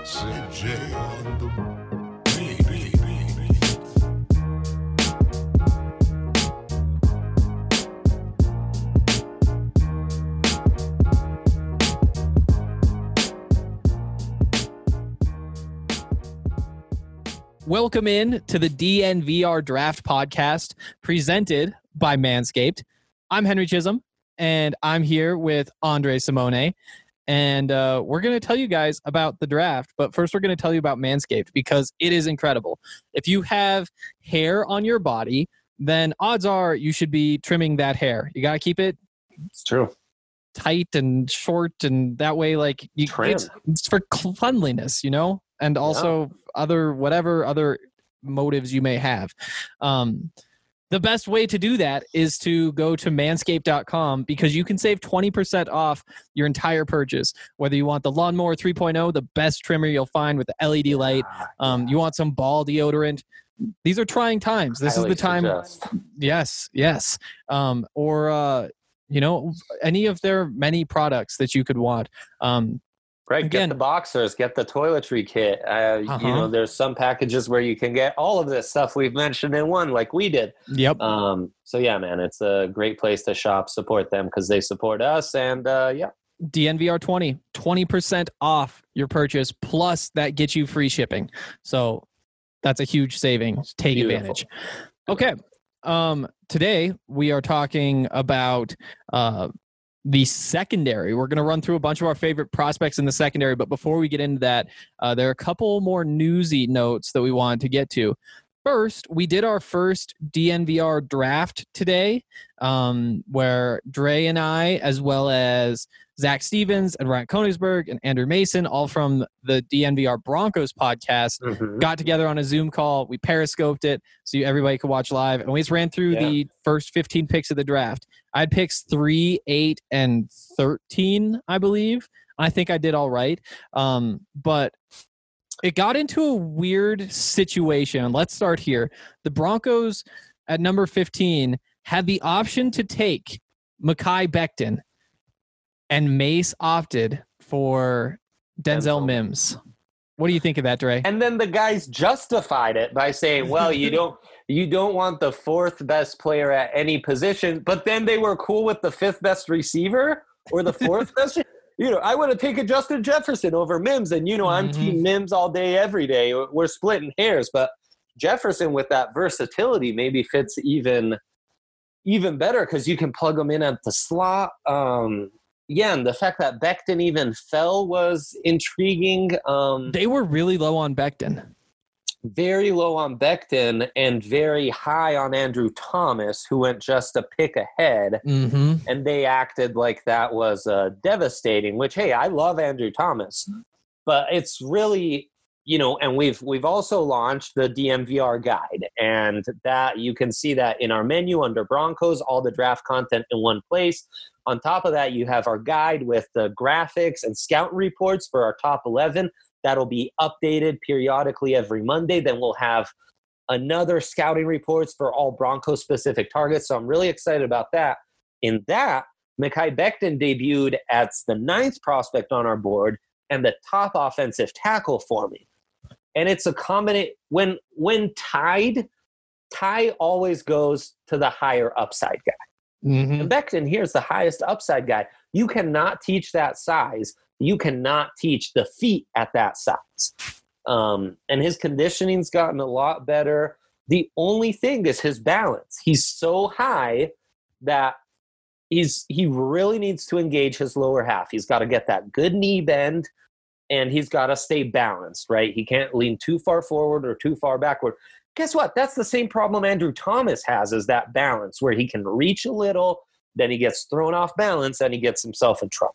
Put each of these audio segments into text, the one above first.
CJ on the beat. Welcome in to the DNVR Draft Podcast presented by Manscaped. I'm Henry Chisholm, and I'm here with Andre Simone. And we're going to tell you guys about the draft. But first, we're going to tell you about Manscaped because it is incredible. If you have hair on your body, then odds are you should be trimming that hair. You got to keep it It's true. tight and short, and that way, like, it's for cleanliness, you know, and also other motives you may have. The best way to do that is to go to manscaped.com because you can save 20% off your entire purchase. Whether you want the Lawnmower 3.0, the best trimmer you'll find with the LED light, you want some ball deodorant. These are trying times. This is the time. Yes. Or any of their many products that you could want. Right, get the boxers, get the toiletry kit. There's some packages where you can get all of this stuff we've mentioned in one, like we did. Yep. So yeah, man, it's a great place to shop. Support them because they support us. And DNVR 20% off your purchase. Plus that gets you free shipping. So that's a huge savings. Take advantage. Okay. Today we are talking about the secondary. We're going to run through a bunch of our favorite prospects in the secondary, but before we get into that, there are a couple more newsy notes that we wanted to get to. First, we did our first DNVR draft today, where Dre and I, as well as Zach Stevens and Ryan Konigsberg and Andrew Mason, all from the DNVR Broncos podcast, got together on a Zoom call. We periscoped it so everybody could watch live, and we just ran through the first 15 picks of the draft. I had picks 3, 8, and 13, I believe. I think I did all right. But it got into a weird situation. Let's start here. The Broncos at number 15 had the option to take Mekhi Becton, and Mace opted for Denzel Mims. What do you think of that, Dre? And then the guys justified it by saying, well, you don't want the 4th best player at any position, but then they were cool with the 5th best receiver or the 4th best. I would have taken Justin Jefferson over Mims, and I'm team Mims all day, every day. We're splitting hairs, but Jefferson with that versatility maybe fits even better because you can plug him in at the slot. And the fact that Becton even fell was intriguing. They were really low on Becton. Very low on Becton and very high on Andrew Thomas, who went just a pick ahead. And they acted like that was devastating, which, hey, I love Andrew Thomas. But it's really, and we've also launched the DNVR guide. And that you can see that in our menu under Broncos, all the draft content in one place. On top of that, you have our guide with the graphics and scout reports for our top 11. That'll be updated periodically every Monday. Then we'll have another scouting reports for all Broncos-specific targets. So I'm really excited about that. In that, Mekhi Becton debuted as the 9th prospect on our board and the top offensive tackle for me. And it's a combination. When tied, Ty always goes to the higher upside guy. And Becton here's the highest upside guy. You cannot teach that size. You cannot teach the feet at that size. And his conditioning's gotten a lot better. The only thing is his balance. He's so high that he really needs to engage his lower half. He's got to get that good knee bend, and he's got to stay balanced, right? He can't lean too far forward or too far backward. Guess what? That's the same problem Andrew Thomas has, is that balance where he can reach a little, then he gets thrown off balance, and he gets himself in trouble.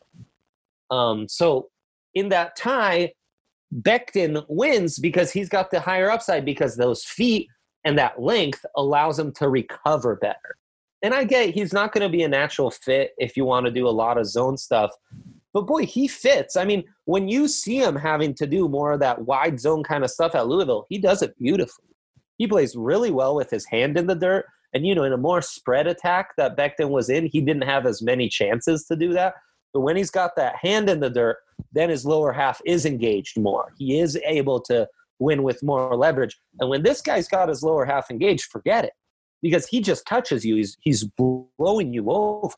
So in that tie, Becton wins because he's got the higher upside because those feet and that length allows him to recover better. And I get he's not going to be a natural fit if you want to do a lot of zone stuff. But boy, he fits. I mean, when you see him having to do more of that wide zone kind of stuff at Louisville, he does it beautifully. He plays really well with his hand in the dirt. And, in a more spread attack that Becton was in, he didn't have as many chances to do that. But when he's got that hand in the dirt, then his lower half is engaged more. He is able to win with more leverage. And when this guy's got his lower half engaged, forget it, because he just touches you. He's blowing you over.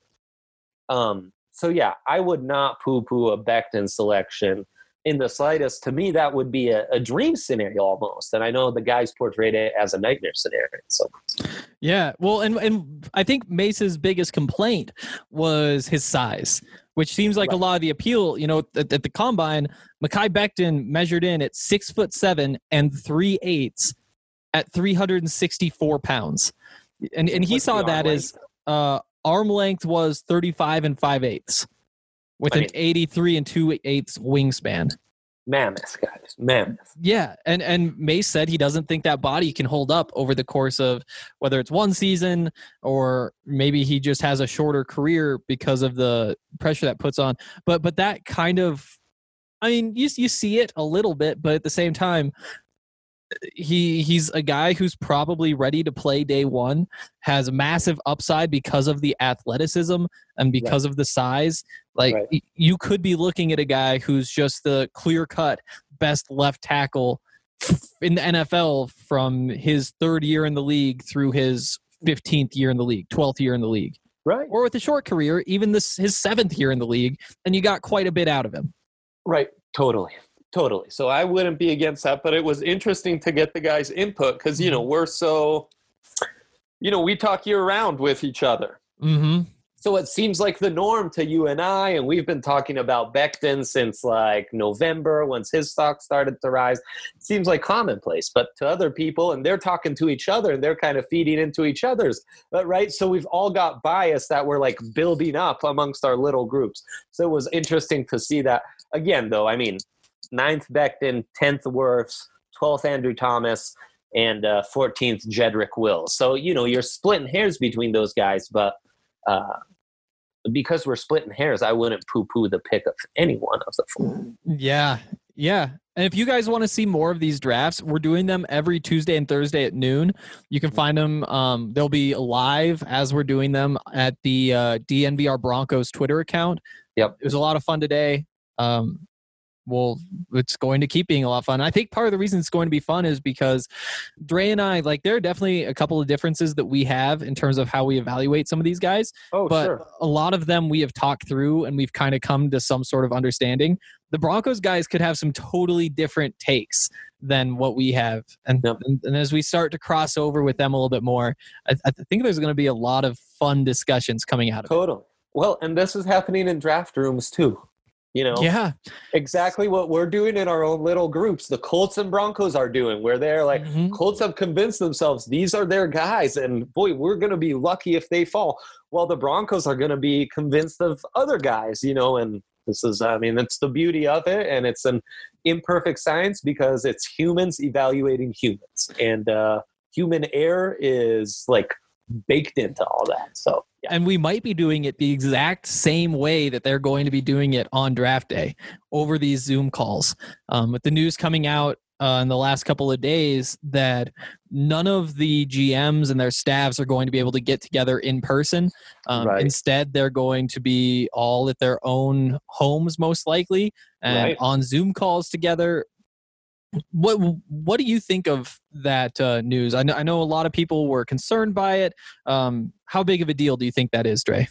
So yeah, I would not poo-poo a Becton selection in the slightest. To me, that would be a dream scenario almost. And I know the guys portrayed it as a nightmare scenario. So yeah, well, and I think Mace's biggest complaint was his size, which seems like a lot of the appeal. You know, at the combine, Mekhi Becton measured in at 6'7" and 3/8 at 364 pounds, and he saw that as arm length was 35 and 5/8 with an 83 and 2/8 wingspan. Mammoth, guys. Mammoth. Yeah. And Mace said he doesn't think that body can hold up over the course of whether it's one season or maybe he just has a shorter career because of the pressure that puts on. But that kind of, I mean, you see it a little bit, but at the same time, he's a guy who's probably ready to play day one, has a massive upside because of the athleticism and because of the size. Like you could be looking at a guy who's just the clear-cut best left tackle in the NFL from his 3rd year in the league through his 15th year in the league, 12th year in the league. Right. Or with a short career, even his 7th year in the league, and you got quite a bit out of him. Right. Totally. So I wouldn't be against that, but it was interesting to get the guys' input because, you know, we're so, you know, we talk year round with each other. Mm-hmm. So it seems like the norm to you and I, and we've been talking about Becton since like November, once his stock started to rise. It seems like commonplace, but to other people, and they're talking to each other, and they're kind of feeding into each other's, right? So we've all got bias that we're like building up amongst our little groups. So it was interesting to see that. Again, though, I mean, 9th Becton, 10th Wirfs, 12th Andrew Thomas, and 14th Jedrick Wills. So, you know, you're splitting hairs between those guys, but because we're splitting hairs, I wouldn't poo-poo the pick of any one of the 4. Yeah. And if you guys want to see more of these drafts, we're doing them every Tuesday and Thursday at noon. You can find them. They'll be live as we're doing them at the DNVR Broncos Twitter account. Yep. It was a lot of fun today. Well, it's going to keep being a lot of fun. I think part of the reason it's going to be fun is because Dre and I, like, there are definitely a couple of differences that we have in terms of how we evaluate some of these guys. But a lot of them we have talked through and we've kind of come to some sort of understanding. The Broncos guys could have some totally different takes than what we have. And as we start to cross over with them a little bit more, I think there's going to be a lot of fun discussions coming out of it. Totally. Well, and this is happening in draft rooms too. You know, exactly what we're doing in our own little groups. The Colts and Broncos are doing, where they're like, Colts have convinced themselves these are their guys, and boy, we're going to be lucky if they fall. Well, the Broncos are going to be convinced of other guys, you know, and this is, I mean, it's the beauty of it, and it's an imperfect science because it's humans evaluating humans, and human error is like baked into all that. So. Yeah. And we might be doing it the exact same way that they're going to be doing it on draft day over these Zoom calls. With the news coming out in the last couple of days that none of the GMs and their staffs are going to be able to get together in person. Instead, they're going to be all at their own homes, most likely, and on Zoom calls together. What do you think of that news? I know a lot of people were concerned by it. How big of a deal do you think that is, Dre?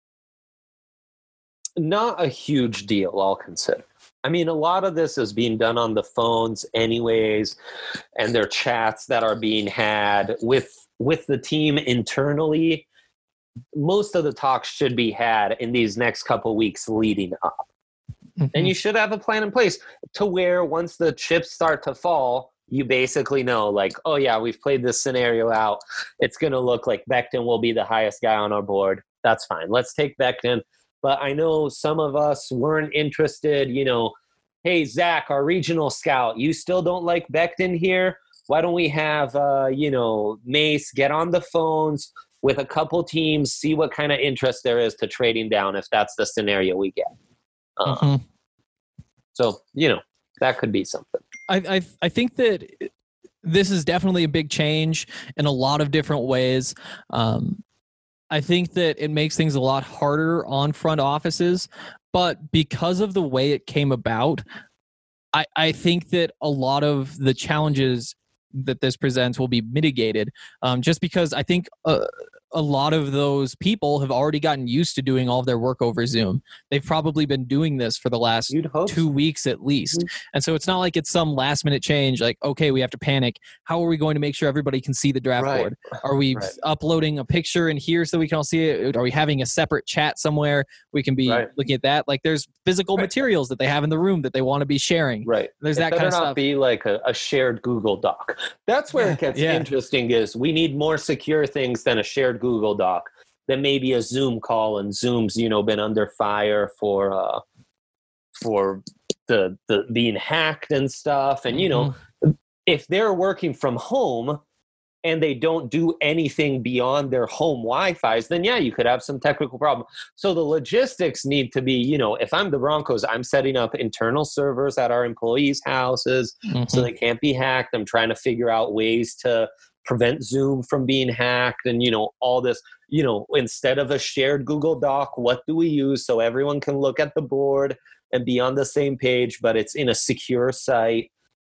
Not a huge deal, I'll consider. I mean, a lot of this is being done on the phones anyways, and there are chats that are being had with the team internally. Most of the talks should be had in these next couple weeks leading up. And you should have a plan in place to where once the chips start to fall, you basically know, like, oh, yeah, we've played this scenario out. It's going to look like Becton will be the highest guy on our board. That's fine. Let's take Becton. But I know some of us weren't interested, you know, hey, Zach, our regional scout, you still don't like Becton here? Why don't we have, Mace get on the phones with a couple teams, see what kind of interest there is to trading down if that's the scenario we get. So, you know, that could be something. I think that this is definitely a big change in a lot of different ways. I think that it makes things a lot harder on front offices, but because of the way it came about, I think that a lot of the challenges that this presents will be mitigated, just because I think a lot of those people have already gotten used to doing all of their work over Zoom. They've probably been doing this for the last 2 weeks at least. And so it's not like it's some last minute change, like, okay, we have to panic. How are we going to make sure everybody can see the draft board? Are we uploading a picture in here so we can all see it? Are we having a separate chat somewhere we can be looking at that? Like, there's physical materials that they have in the room that they want to be sharing. There's that kind of stuff. It better not be like a shared Google Doc. That's where it gets interesting, is we need more secure things than a shared Google Doc, than maybe a Zoom call, and Zoom's been under fire for the being hacked and stuff. And if they're working from home and they don't do anything beyond their home Wi-Fis, then you could have some technical problem. So the logistics need to be, if I'm the Broncos, I'm setting up internal servers at our employees' houses so they can't be hacked. I'm trying to figure out ways to prevent Zoom from being hacked, and all this. Instead of a shared Google Doc, what do we use so everyone can look at the board and be on the same page, but it's in a secure site?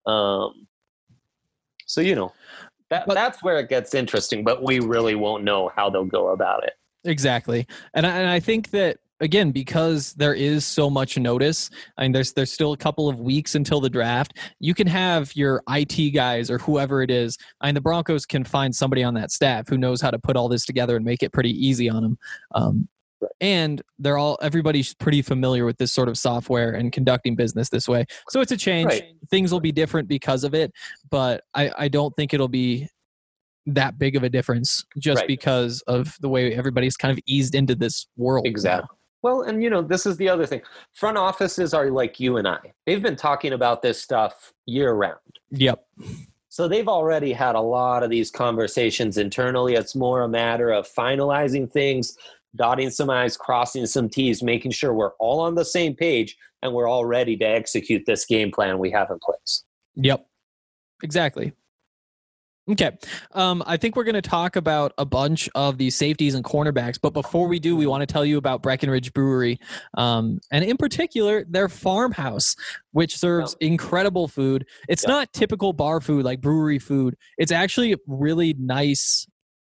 That's where it gets interesting, but we really won't know how they'll go about it. Exactly. And I think that, again, because there is so much notice, I mean, there's still a couple of weeks until the draft. You can have your IT guys or whoever it is. I mean, the Broncos can find somebody on that staff who knows how to put all this together and make it pretty easy on them. And everybody's pretty familiar with this sort of software and conducting business this way. So it's a change. Things will be different because of it, but I don't think it'll be that big of a difference just because of the way everybody's kind of eased into this world. Exactly. Well, and this is the other thing. Front offices are like you and I. They've been talking about this stuff year round. Yep. So they've already had a lot of these conversations internally. It's more a matter of finalizing things, dotting some I's, crossing some T's, making sure we're all on the same page and we're all ready to execute this game plan we have in place. Yep. Exactly. Okay. I think we're going to talk about a bunch of the safeties and cornerbacks, but before we do, we want to tell you about Breckenridge Brewery, and in particular, their farmhouse, which serves incredible food. It's not typical bar food, like brewery food. It's actually really nice.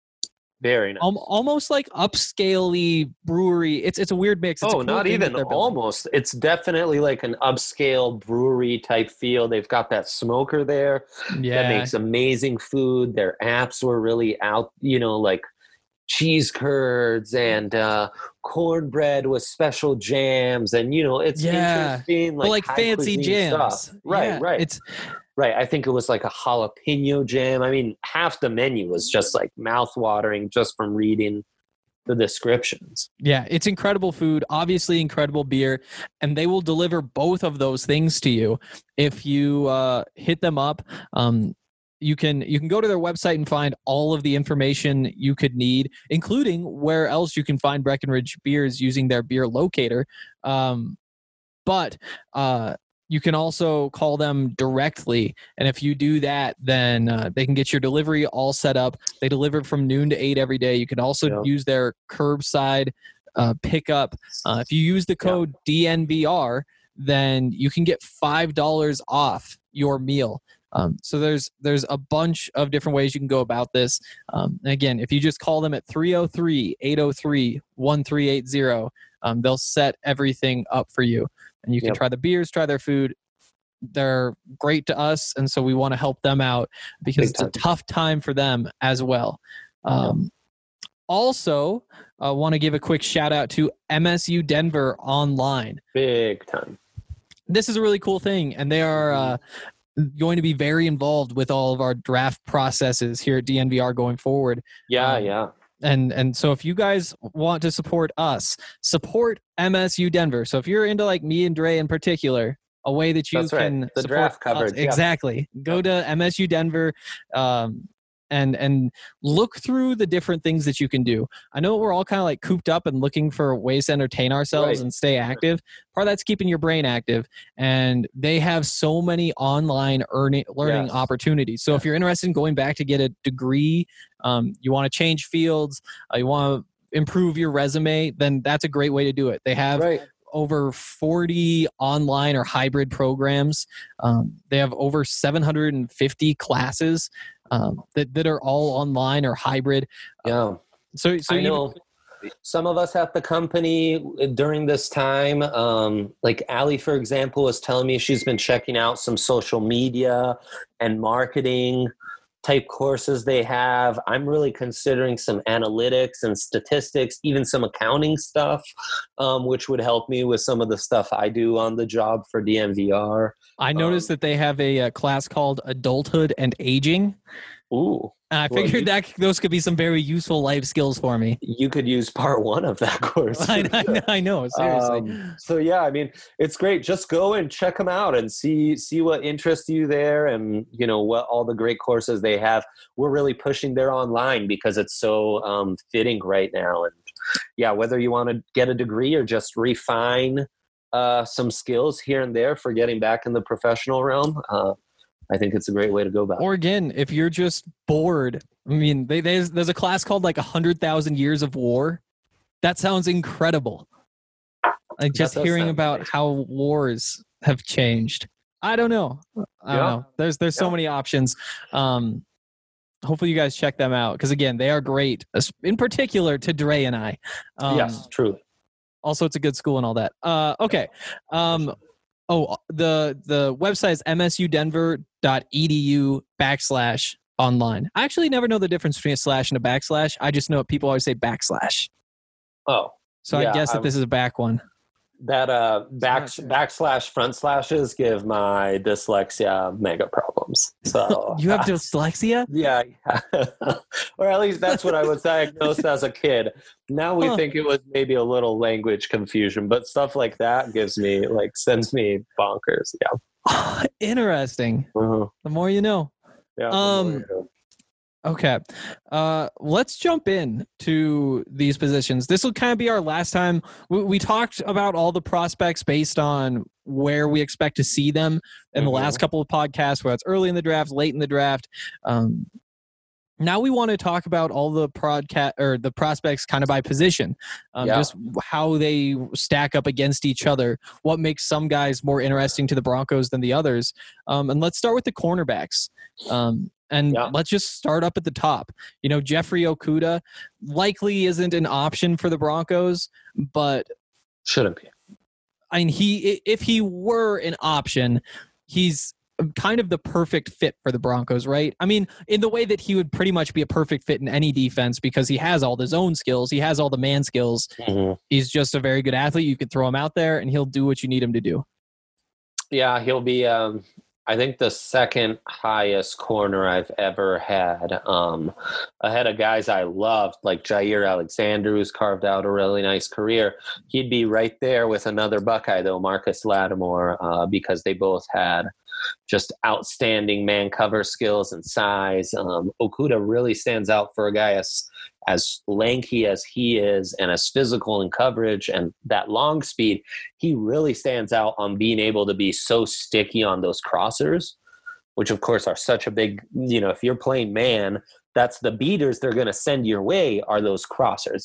Very nice. Almost like upscale-y brewery. It's a weird mix. It's a cool not even almost. It's definitely like an upscale brewery type feel. They've got that smoker there that makes amazing food. Their apps were really out, like cheese curds and cornbread with special jams. And, it's interesting. Like fancy jams. Stuff. Right. Right. I think it was like a jalapeno jam. I mean, half the menu was just like mouth-watering just from reading the descriptions. Yeah, it's incredible food, obviously incredible beer, and they will deliver both of those things to you if you hit them up. You can go to their website and find all of the information you could need, including where else you can find Breckenridge beers using their beer locator. But you can also call them directly. And if you do that, then they can get your delivery all set up. They deliver from noon to 8 every day. You can also use their curbside pickup. If you use the code DNVR, then you can get $5 off your meal. So there's a bunch of different ways you can go about this. And again, if you just call them at 303-803-1380, they'll set everything up for you. And you can try the beers, try their food. They're great to us, and so we want to help them out because it's a tough time for them as well. Also, I want to give a quick shout out to MSU Denver Online. Big time. This is a really cool thing, and they are going to be very involved with all of our draft processes here at DNVR going forward. And so if you guys want to support us, support MSU Denver. So if you're into like me and Dre in particular, a way that you can the draft coverage. Exactly. Go to MSU Denver and look through the different things that you can do. I know we're all kind of like cooped up and looking for ways to entertain ourselves and stay active. Part of that's keeping your brain active. And they have so many online learning opportunities. So if you're interested in going back to get a degree, you want to change fields, you want to improve your resume, then that's a great way to do it. They have over 40 online or hybrid programs. They have over 750 classes that are all online or hybrid. Yeah. So I know some of us at the company during this time, like Allie, for example, was telling me she's been checking out some social media and marketing type courses they have. I'm really considering some analytics and statistics, even some accounting stuff, which would help me with some of the stuff I do on the job for DNVR. I noticed that they have a class called Adulthood and Aging. Ooh. And I figured that those could be some very useful life skills for me. You could use part 1 of that course. I know, seriously. So yeah, I mean, it's great. Just go and check them out and see what interests you there, and you know what all the great courses they have. We're really pushing their online because it's so fitting right now. And yeah, whether you want to get a degree or just refine some skills here and there for getting back in the professional realm, I think it's a great way to go about it. Or again, if you're just bored, I mean, there's a class called like 100,000 Years of War. That sounds incredible. Like just hearing about how wars have changed. I don't know. I don't know. There's so many options. Hopefully you guys check them out because again, they are great. In particular to Dre and I. Yes, truly. Also, it's a good school and all that. Okay. The website is msudenver.edu/online. I actually never know the difference between a slash and a backslash. I just know people always say backslash. Oh. So I guess that this is a back one. That backslash front slashes give my dyslexia mega problems. So you have dyslexia? Yeah. Or at least that's what I was diagnosed as a kid. Now we think it was maybe a little language confusion, but stuff like that sends me bonkers. Yeah. Interesting. The more you know. Yeah. Okay. Let's jump in to these positions. This will kind of be our last time. We talked about all the prospects based on where we expect to see them in the last couple of podcasts, whether it's early in the draft, late in the draft. Now we want to talk about all the prospects kind of by position, just how they stack up against each other, what makes some guys more interesting to the Broncos than the others. And let's start with the cornerbacks. Let's just start up at the top. You know, Jeffrey Okudah likely isn't an option for the Broncos, but shouldn't be. I mean, if he were an option, he's kind of the perfect fit for the Broncos, right? I mean, in the way that he would pretty much be a perfect fit in any defense because he has all the zone skills. He has all the man skills. He's just a very good athlete. You could throw him out there and he'll do what you need him to do. Yeah, he'll be I think the second highest corner I've ever had, ahead of guys I loved, like Jair Alexander, who's carved out a really nice career. He'd be right there with another Buckeye, though, Marcus Lattimore, because they both had just outstanding man cover skills and size. Okudah really stands out for a guy as lanky as he is and as physical in coverage and that long speed. He really stands out on being able to be so sticky on those crossers, which of course are such a big, if you're playing man, that's the beaters they're going to send your way are those crossers.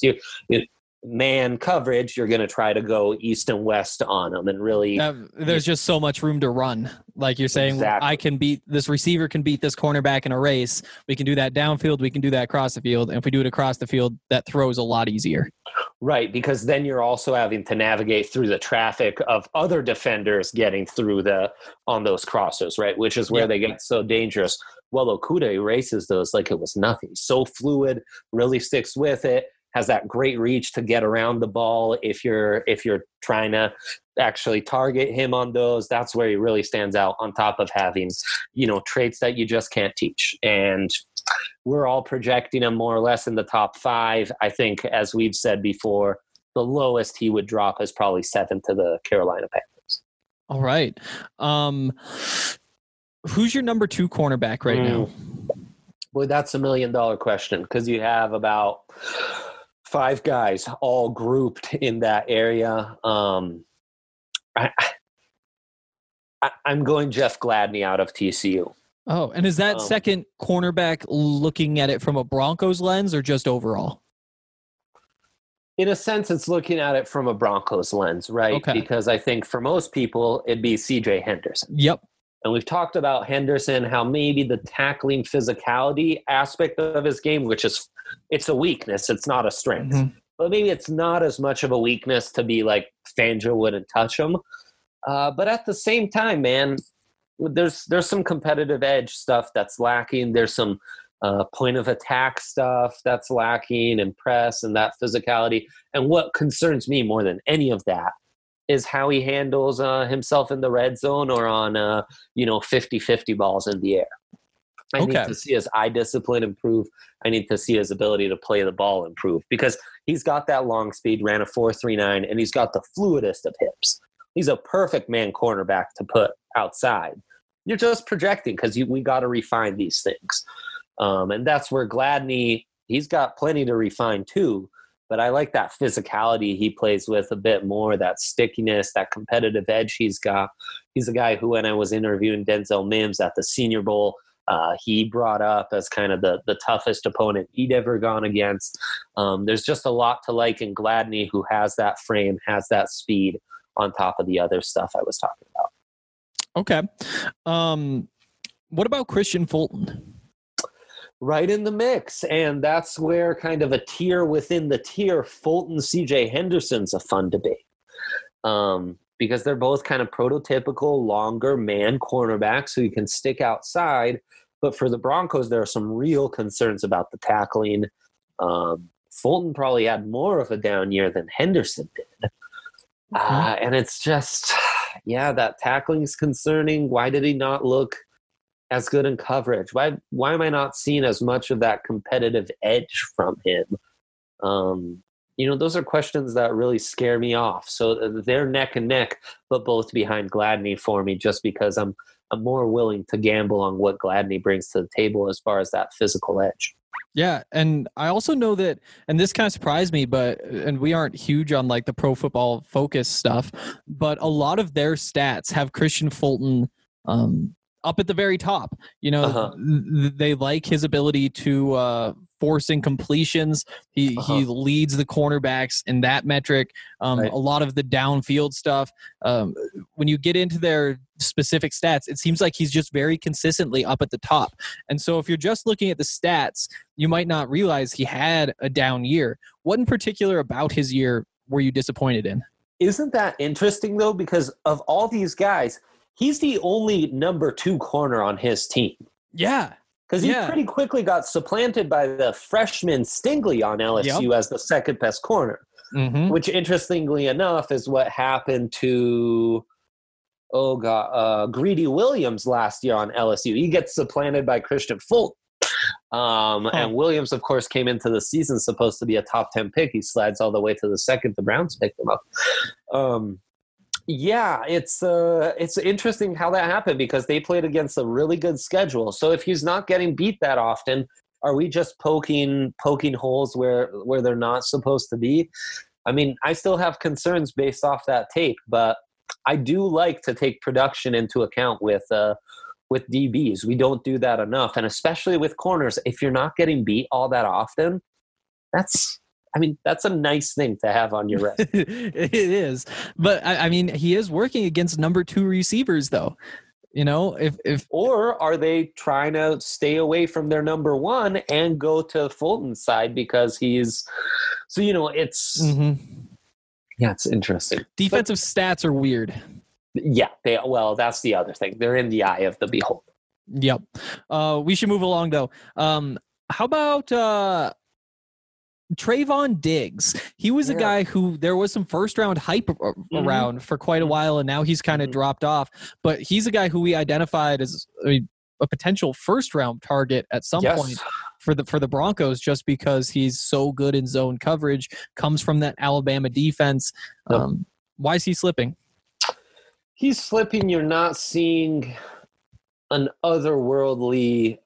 Man coverage, you're going to try to go east and west on them and really there's just so much room to run. Like you're saying, exactly. This receiver can beat this cornerback in a race. We can do that downfield. We can do that across the field. And if we do it across the field, that throws a lot easier. Right. Because then you're also having to navigate through the traffic of other defenders getting through on those crossers, right? Which is where they get so dangerous. Well, Okudah erases those like it was nothing. So fluid, really sticks with it. Has that great reach to get around the ball if you're trying to actually target him on those. That's where he really stands out, on top of having, traits that you just can't teach. And we're all projecting him more or less in the top 5. I think, as we've said before, the lowest he would drop is probably 7 to the Carolina Panthers. All right. Who's your number 2 cornerback right now? Boy, that's $1 million question, because you have about 5 guys all grouped in that area. I'm going Jeff Gladney out of TCU. Oh, and is that second cornerback looking at it from a Broncos lens or just overall? In a sense, it's looking at it from a Broncos lens, right? Okay. Because I think for most people, it'd be CJ Henderson. Yep. And we've talked about Henderson, how maybe the tackling physicality aspect of his game, which is, it's a weakness, it's not a strength. Mm-hmm. But maybe it's not as much of a weakness to be like Fangio wouldn't touch him. But at the same time, man, there's some competitive edge stuff that's lacking. There's some point of attack stuff that's lacking, and press and that physicality. And what concerns me more than any of that is how he handles himself in the red zone or on 50-50 balls in the air. I need to see his eye discipline improve. I need to see his ability to play the ball improve, because he's got that long speed, ran a 4.39, and he's got the fluidest of hips. He's a perfect man cornerback to put outside. You're just projecting, because we got to refine these things. And that's where Gladney, he's got plenty to refine too. But I like that physicality he plays with a bit more, that stickiness, that competitive edge he's got. He's a guy who, when I was interviewing Denzel Mims at the Senior Bowl, he brought up as kind of the toughest opponent he'd ever gone against. There's just a lot to like in Gladney, who has that frame, has that speed on top of the other stuff I was talking about. Okay. What about Christian Fulton? Right in the mix. And that's where kind of a tier within the tier, Fulton, CJ Henderson's a fun debate. Because they're both kind of prototypical longer man cornerbacks who you can stick outside. But for the Broncos, there are some real concerns about the tackling. Fulton probably had more of a down year than Henderson did. And it's just, that tackling is concerning. Why did he not look as good in coverage? Why am I not seeing as much of that competitive edge from him? Those are questions that really scare me off. So they're neck and neck, but both behind Gladney for me, just because I'm more willing to gamble on what Gladney brings to the table as far as that physical edge. Yeah, and I also know that, and this kind of surprised me, and we aren't huge on like the Pro Football Focus stuff, but a lot of their stats have Christian Fulton up at the very top. They like his ability to forcing completions. He leads the cornerbacks in that metric. Right. A lot of the downfield stuff. When you get into their specific stats, it seems like he's just very consistently up at the top. And so if you're just looking at the stats, you might not realize he had a down year. What in particular about his year were you disappointed in? Isn't that interesting, though? Because of all these guys, he's the only number 2 corner on his team. Yeah. Because he pretty quickly got supplanted by the freshman Stingley on LSU as the second best corner, which interestingly enough is what happened to, Greedy Williams last year on LSU. He gets supplanted by Christian Fulton. And Williams, of course, came into the season supposed to be a top 10 pick. He slides all the way to the second. The Browns picked him up. It's interesting how that happened, because they played against a really good schedule. So if he's not getting beat that often, are we just poking holes where they're not supposed to be? I mean, I still have concerns based off that tape, but I do like to take production into account with DBs. We don't do that enough, and especially with corners, if you're not getting beat all that often, that's a nice thing to have on your resume. It is. But I mean, he is working against number 2 receivers though. Or are they trying to stay away from their number 1 and go to Fulton's side because it's it's interesting. Defensive stats are weird. Yeah. That's the other thing. They're in the eye of the beholder. Yep. We should move along though. How about Trayvon Diggs? He was a guy who there was some first round hype around for quite a while, and now he's kind of dropped off. But he's a guy who we identified as a potential first round target at some point for the Broncos, just because he's so good in zone coverage, comes from that Alabama defense. Why is he slipping? He's slipping. You're not seeing an otherworldly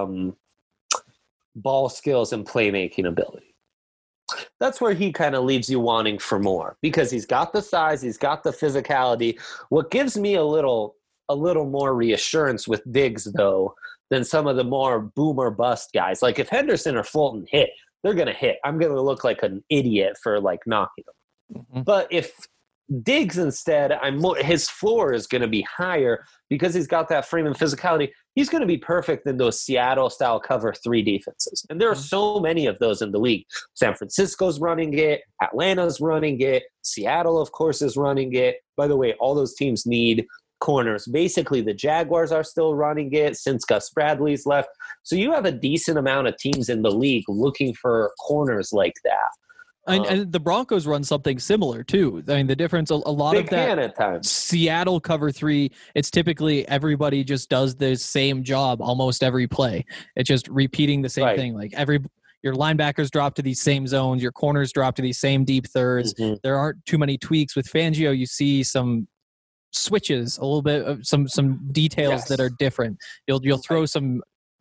ball skills and playmaking ability. That's where he kind of leaves you wanting for more, because he's got the size, he's got the physicality. What gives me a little more reassurance with Diggs, though, than some of the more boom or bust guys. Like if Henderson or Fulton hit, they're going to hit. I'm going to look like an idiot for like knocking them. Mm-hmm. But if Diggs instead, his floor is going to be higher because he's got that frame and physicality. He's going to be perfect in those Seattle-style cover 3 defenses. And there are so many of those in the league. San Francisco's running it. Atlanta's running it. Seattle, of course, is running it. By the way, all those teams need corners. Basically, the Jaguars are still running it since Gus Bradley's left. So you have a decent amount of teams in the league looking for corners like that. And the Broncos run something similar too. I mean, the difference a lot of that at times. Seattle cover 3. It's typically everybody just does the same job almost every play. It's just repeating the same thing. Like your linebackers drop to these same zones, your corners drop to these same deep thirds. Mm-hmm. There aren't too many tweaks with Fangio. You see some switches, a little bit of some details that are different. You'll throw some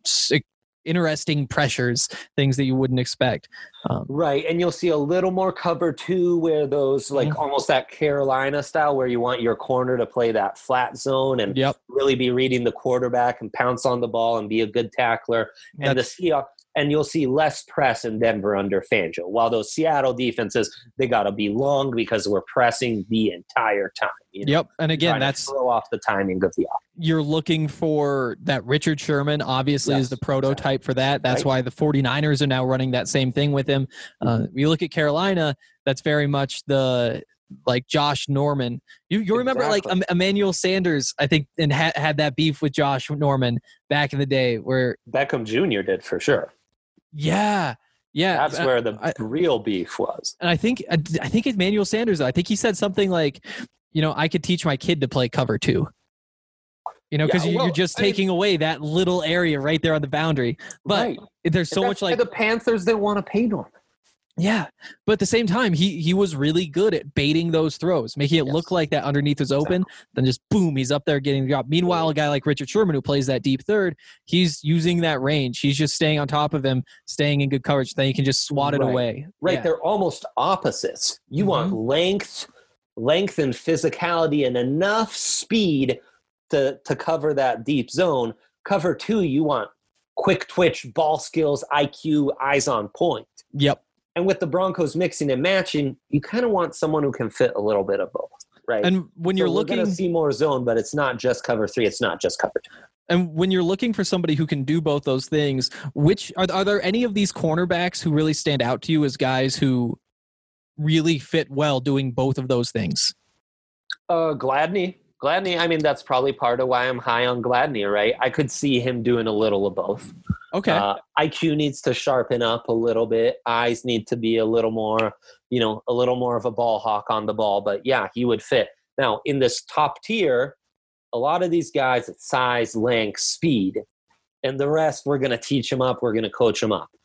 interesting pressures, things that you wouldn't expect. Right. And you'll see a little more cover 2 where those like almost that Carolina style where you want your corner to play that flat zone and really be reading the quarterback and pounce on the ball and be a good tackler. And the Seahawks, and you'll see less press in Denver under Fangio. While those Seattle defenses, they got to be long because we're pressing the entire time. Yep. And again, that's throw off the timing of the offense. You're looking for that. Richard Sherman obviously is the prototype for that. That's why the 49ers are now running that same thing with him. You look at Carolina, that's very much the like Josh Norman. You remember like Emmanuel Sanders, I think, and had that beef with Josh Norman back in the day where Beckham Jr. did for sure. Yeah. That's where the real beef was. And I think Emmanuel Sanders, I think he said something like, I could teach my kid to play cover 2. Because you're just taking away that little area right there on the boundary. But there's so much like the Panthers that want to pay Norman. Yeah, but at the same time, he was really good at baiting those throws, making it look like that underneath is open. Then just boom, he's up there getting the job. Meanwhile, a guy like Richard Sherman, who plays that deep third, he's using that range. He's just staying on top of him, staying in good coverage. Then he can just swat it away. Right, they're almost opposites. You want length and physicality and enough speed to cover that deep zone. Cover 2, you want quick twitch, ball skills, IQ, eyes on point. Yep. And with the Broncos mixing and matching, you kind of want someone who can fit a little bit of both, right? And when you're looking, we're going to see more zone, but it's not just cover 3. It's not just cover 2. And when you're looking for somebody who can do both those things, which are there any of these cornerbacks who really stand out to you as guys who really fit well doing both of those things? Gladney, I mean, that's probably part of why I'm high on Gladney, right? I could see him doing a little of both. Okay. IQ needs to sharpen up a little bit. Eyes need to be a little more of a ball hawk on the ball. But yeah, he would fit. Now, in this top tier, a lot of these guys at size, length, speed, and the rest, we're going to teach them up. We're going to coach them up.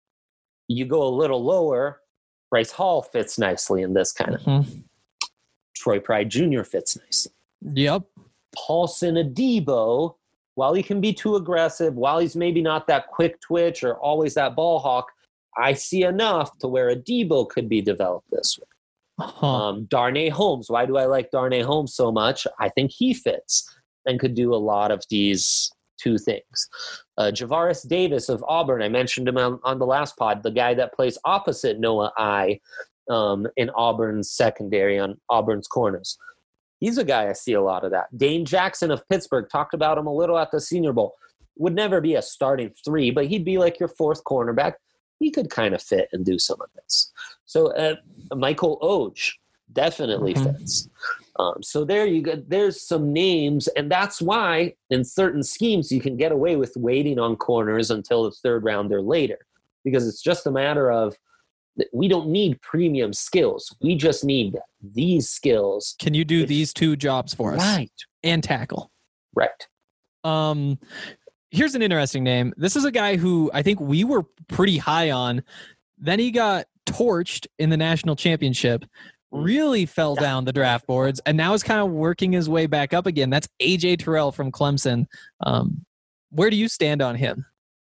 You go a little lower, Bryce Hall fits nicely in this kind of. Troy Pride Jr. fits nicely. Yep. Paulson Adebo, while he can be too aggressive, while he's maybe not that quick twitch or always that ball hawk, I see enough to where Adebo could be developed this way. Darnay Holmes. Why do I like Darnay Holmes so much? I think he fits and could do a lot of these two things. Javaris Davis of Auburn. I mentioned him on the last pod, the guy that plays opposite Noah I in Auburn's secondary on Auburn's corners. He's a guy I see a lot of that. Dane Jackson of Pittsburgh, talked about him a little at the Senior Bowl. Would never be a starting 3, but he'd be like your 4th cornerback. He could kind of fit and do some of this. So Michael Oge definitely fits. So there you go. There's some names, and that's why in certain schemes you can get away with waiting on corners until the 3rd round or later, because it's just a matter of we don't need premium skills. We just need these skills. Can you do these 2 jobs for us? Right. And tackle. Right. Here's an interesting name. This is a guy who I think we were pretty high on. Then he got torched in the national championship, really fell down the draft boards, and now is kind of working his way back up again. That's A.J. Terrell from Clemson. Where do you stand on him?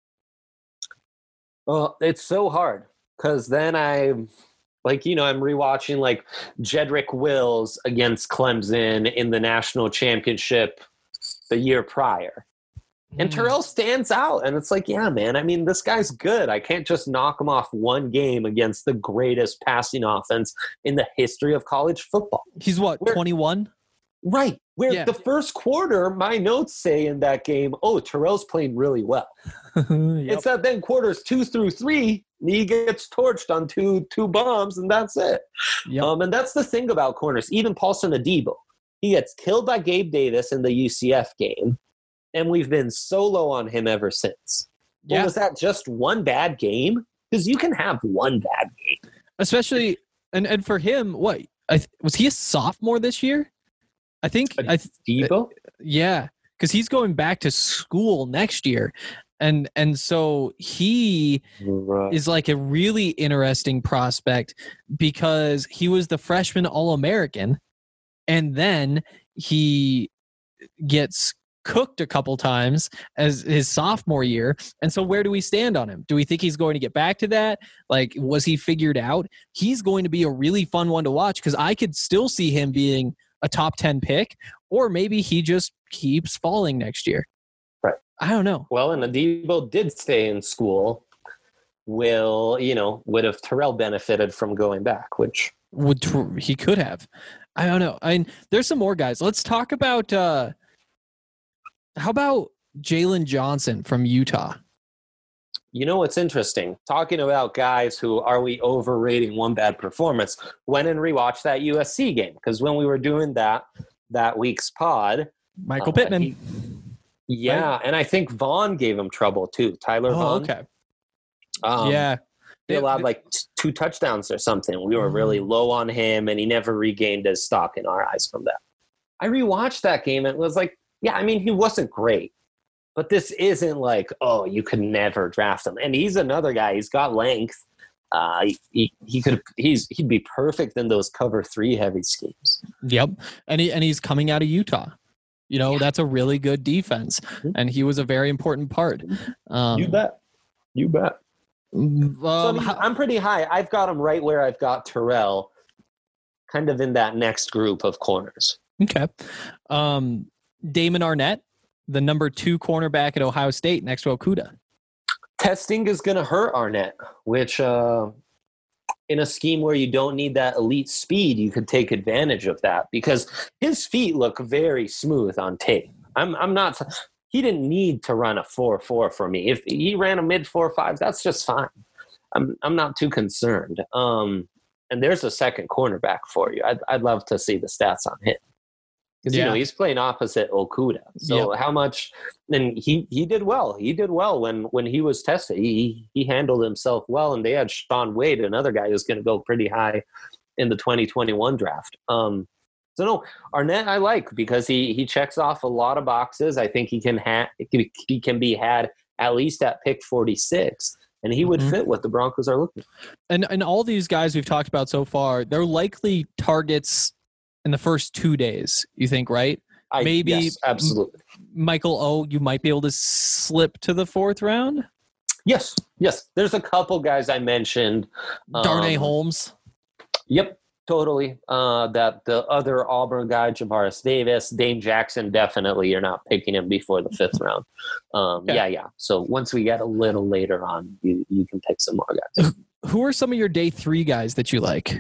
Well, it's so hard. Because then I'm rewatching like Jedrick Wills against Clemson in the national championship the year prior. And Terrell stands out, and it's like, yeah, man. I mean, this guy's good. I can't just knock him off one game against the greatest passing offense in the history of college football. He's what, 21? Right. Where the first quarter, my notes say in that game, oh, Terrell's playing really well. Yep. It's that then quarters 2 through 3, he gets torched on two bombs, and that's it. Yep. And that's the thing about corners. Even Paulson Adebo, he gets killed by Gabe Davis in the UCF game. And we've been so low on him ever since. Yeah. Well, was that just one bad game? Because you can have one bad game. Especially, and for him, what? Was he a sophomore this year? I think. Debo? Yeah, because he's going back to school next year. And so he is like a really interesting prospect because he was the freshman All-American. And then he gets cooked a couple times as his sophomore year. And so where do we stand on him? Do we think he's going to get back to that? Like, was he figured out? He's going to be a really fun one to watch because I could still see him being a top 10 pick, or maybe he just keeps falling next year. Right. I don't know. Well, and Adebo did stay in school. Would have Terrell benefited from going back, which he could have. I don't know. There's some more guys. Let's talk about how about Jalen Johnson from Utah? You know what's interesting? Talking about guys who are we overrating one bad performance, went and rewatched that USC game. Because when we were doing that week's pod, Michael Pittman. Right? And I think Vaughn gave him trouble too. Tyler Vaughn. Okay. Yeah. He allowed like 2 touchdowns or something. We were really low on him, and he never regained his stock in our eyes from that. I rewatched that game, and it was like, yeah, I mean, he wasn't great, but this isn't like, oh, you could never draft him. And he's another guy. He's got length. He'd be perfect in those cover 3 heavy schemes. Yep. And he's coming out of Utah. That's a really good defense, and he was a very important part. You bet. I'm pretty high. I've got him right where I've got Terrell, kind of in that next group of corners. Okay. Damon Arnett, the number 2 cornerback at Ohio State next to Okudah. Testing is going to hurt Arnett, which in a scheme where you don't need that elite speed, you could take advantage of that because his feet look very smooth on tape. He didn't need to run a 4.4 for me. If he ran a mid 4.5, that's just fine. I'm not too concerned. And there's a second cornerback for you. I'd love to see the stats on him. Because he's playing opposite Okudah. So how much? And he did well. He did well when he was tested. He handled himself well, and they had Shaun Wade, another guy who's going to go pretty high in the 2021 draft. So no, Arnett I like because he checks off a lot of boxes. I think he can be had at least at pick 46. And he would fit what the Broncos are looking for. And all these guys we've talked about so far, they're likely targets in the first 2 days, you think, right? Maybe yes, absolutely. Michael O, you might be able to slip to the 4th round? Yes. There's a couple guys I mentioned. Darnay Holmes? Yep, totally. That the other Auburn guy, Javaris Davis, Dane Jackson, definitely you're not picking him before the 5th round. Yeah. So once we get a little later on, you can pick some more guys. Who are some of your day 3 guys that you like?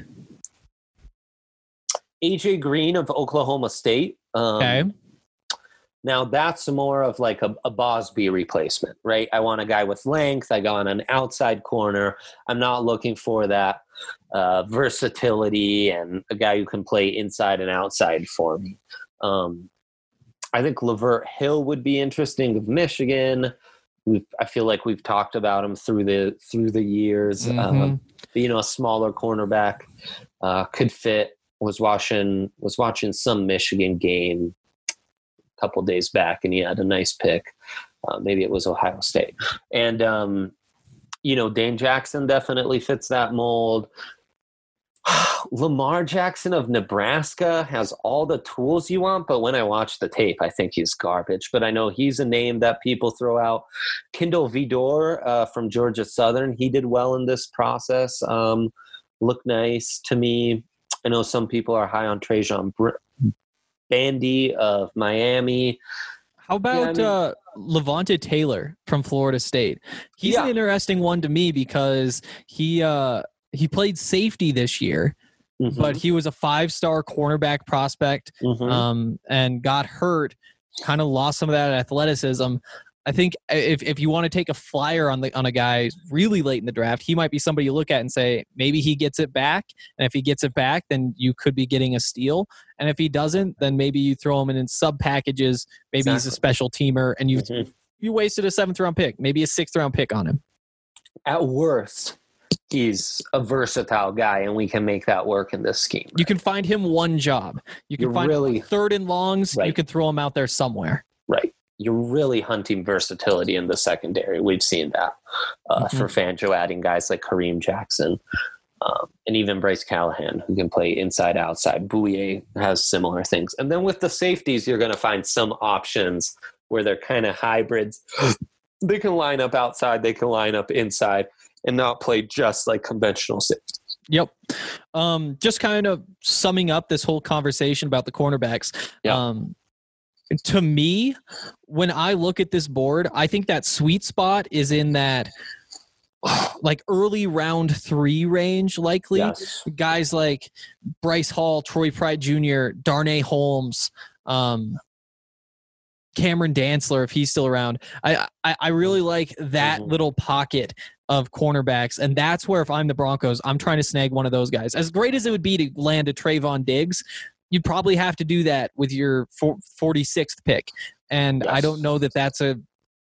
AJ Green of Oklahoma State. Okay. Now that's more of like a Bosby replacement, right? I want a guy with length. I got an outside corner. I'm not looking for that versatility and a guy who can play inside and outside for me. I think Lavert Hill would be interesting of Michigan. I feel like we've talked about him through the years. A smaller cornerback could fit. Was watching some Michigan game a couple days back, and he had a nice pick. Maybe it was Ohio State. And, Dane Jackson definitely fits that mold. Lamar Jackson of Nebraska has all the tools you want, but when I watch the tape, I think he's garbage. But I know he's a name that people throw out. Kindle Vidor from Georgia Southern, he did well in this process. Looked nice to me. I know some people are high on Trajan Bandy of Miami. How about Levante Taylor from Florida State? He's an interesting one to me because he played safety this year, but he was a 5-star cornerback prospect and got hurt, kind of lost some of that athleticism. I think if you want to take a flyer on a guy really late in the draft, he might be somebody you look at and say, maybe he gets it back. And if he gets it back, then you could be getting a steal. And if he doesn't, then maybe you throw him in sub packages. Maybe he's a special teamer and you wasted a 7th round pick, maybe a 6th round pick on him. At worst, he's a versatile guy and we can make that work in this scheme. Right? You can find him one job. You can find him 3rd and longs. Right. You can throw him out there somewhere. Right. You're really hunting versatility in the secondary. We've seen that for Fangio, adding guys like Kareem Jackson and even Bryce Callahan, who can play inside, outside. Bouye has similar things. And then with the safeties, you're going to find some options where they're kind of hybrids. They can line up outside, they can line up inside, and not play just like conventional safeties. Yep. Just kind of summing up this whole conversation about the cornerbacks. To me, when I look at this board, I think that sweet spot is in that like early round 3 range, likely. Yes. Guys like Bryce Hall, Troy Pride Jr., Darnay Holmes, Cameron Dantzler, if he's still around. I really like that little pocket of cornerbacks, and that's where if I'm the Broncos, I'm trying to snag one of those guys. As great as it would be to land a Trayvon Diggs, you'd probably have to do that with your 46th pick. And I don't know that that's a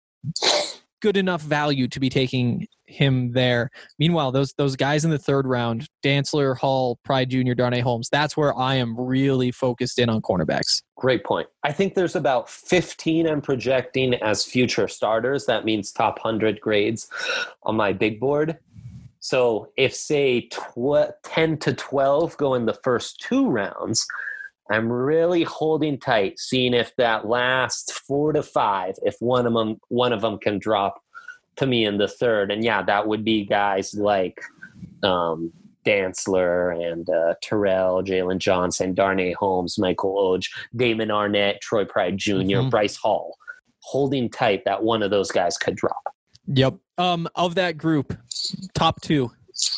good enough value to be taking him there. Meanwhile, those guys in the 3rd round, Dantzler, Hall, Pride Jr., Darnay Holmes, that's where I am really focused in on cornerbacks. Great point. I think there's about 15 I'm projecting as future starters. That means top 100 grades on my big board. So if, say, 10 to 12 go in the first 2 rounds, I'm really holding tight, seeing if that last 4 to 5, if one of them can drop to me in the 3rd. And that would be guys like Dantzler and Terrell, Jalen Johnson, Darnay Holmes, Michael Oj, Damon Arnett, Troy Pride Jr., Bryce Hall. Holding tight that one of those guys could drop. Yep. Of that group, top 2.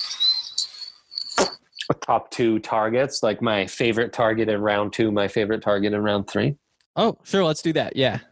Top 2 targets, like my favorite target in round 2, my favorite target in round 3. Oh, sure. Let's do that. Yeah.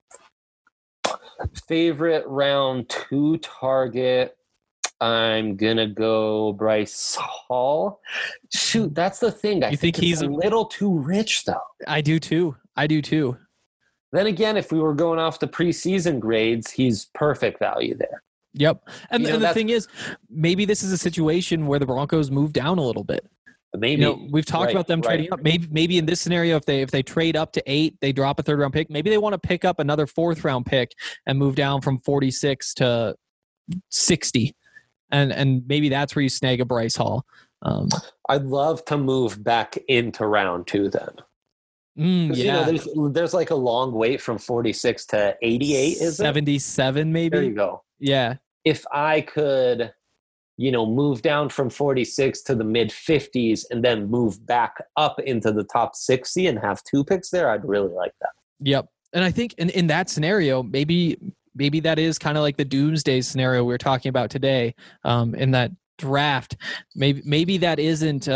Favorite round 2 target. I'm going to go Bryce Hall. Shoot, that's the thing. I think he's a little too rich, though. I do too. Then again, if we were going off the preseason grades, he's perfect value there. Yep. And the thing is, maybe this is a situation where the Broncos move down a little bit. Maybe. We've talked about them trading up. Maybe in this scenario, if they trade up to 8, they drop a 3rd round pick. Maybe they want to pick up another 4th round pick and move down from 46 to 60. And maybe that's where you snag a Bryce Hall. I'd love to move back into round 2 then. There's like a long wait from 46 to 88, is 77 maybe? There you go. Yeah. If I could, move down from 46 to the mid 50s and then move back up into the top 60 and have 2 picks there, I'd really like that. Yep. And I think in that scenario, maybe that is kind of like the doomsday scenario we were talking about today in that draft. Maybe that isn't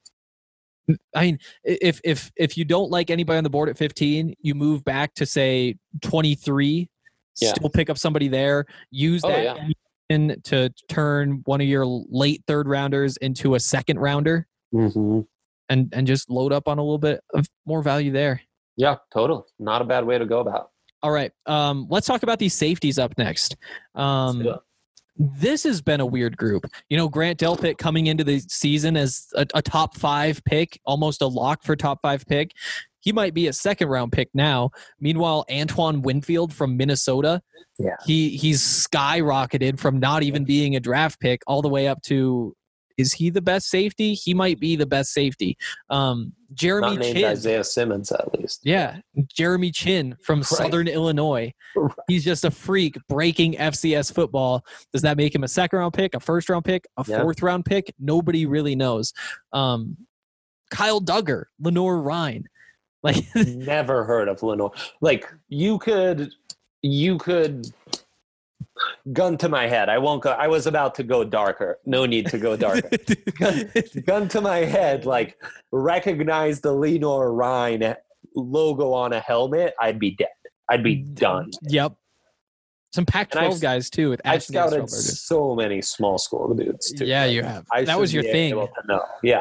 if you don't like anybody on the board at 15, you move back to say 23, still pick up somebody there, use to turn one of your late 3rd rounders into a 2nd rounder and just load up on a little bit of more value there. Yeah, totally. Not a bad way to go about. All right. Let's talk about these safeties up next. This has been a weird group. Grant Delpit coming into the season as a top 5 pick, almost a lock for top 5 pick. He might be a 2nd round pick now. Meanwhile, Antoine Winfield from Minnesota, he's skyrocketed from not even being a draft pick all the way up to, is he the best safety? He might be the best safety. Jeremy Not named Chin. Isaiah Simmons, at least. Yeah. Jeremy Chin from Southern Illinois. Right. He's just a freak breaking FCS football. Does that make him a 2nd round pick, a 1st round pick, a 4th round pick? Nobody really knows. Kyle Duggar, Lenore Ryan. Like, Never heard of Lenoir. Like you could gun to my head. I won't go. I was about to go darker. No need to go darker. gun to my head. Like recognize the Lenoir Rhine logo on a helmet. I'd be dead. I'd be done. Yep. Some Pac-12 guys too. With I've scouted so many small school dudes too. Yeah, you have. That was your thing. Yeah.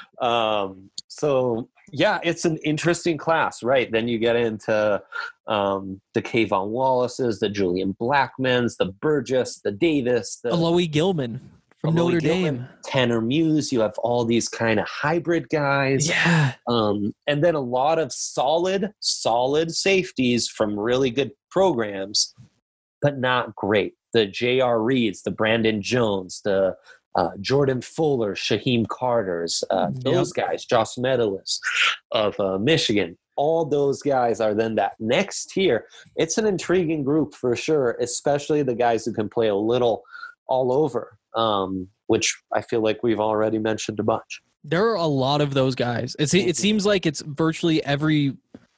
So yeah, it's an interesting class, right? Then you get into the Kayvon Wallaces, the Julian Blackmans, the Burgess, the Davis, the Alohi Gilman from Notre Dame, Tanner Muse. You have all these kind of hybrid guys. Yeah. And then a lot of solid safeties from really good programs, but not great. The J.R. Reeds, the Brandon Jones, the Jordan Fuller, Shaheem Carters, those guys, Josh Metellus of Michigan. All those guys are then that next tier. It's an intriguing group for sure, especially the guys who can play a little all over, which I feel like we've already mentioned a bunch. There are a lot of those guys. It seems like it's virtually every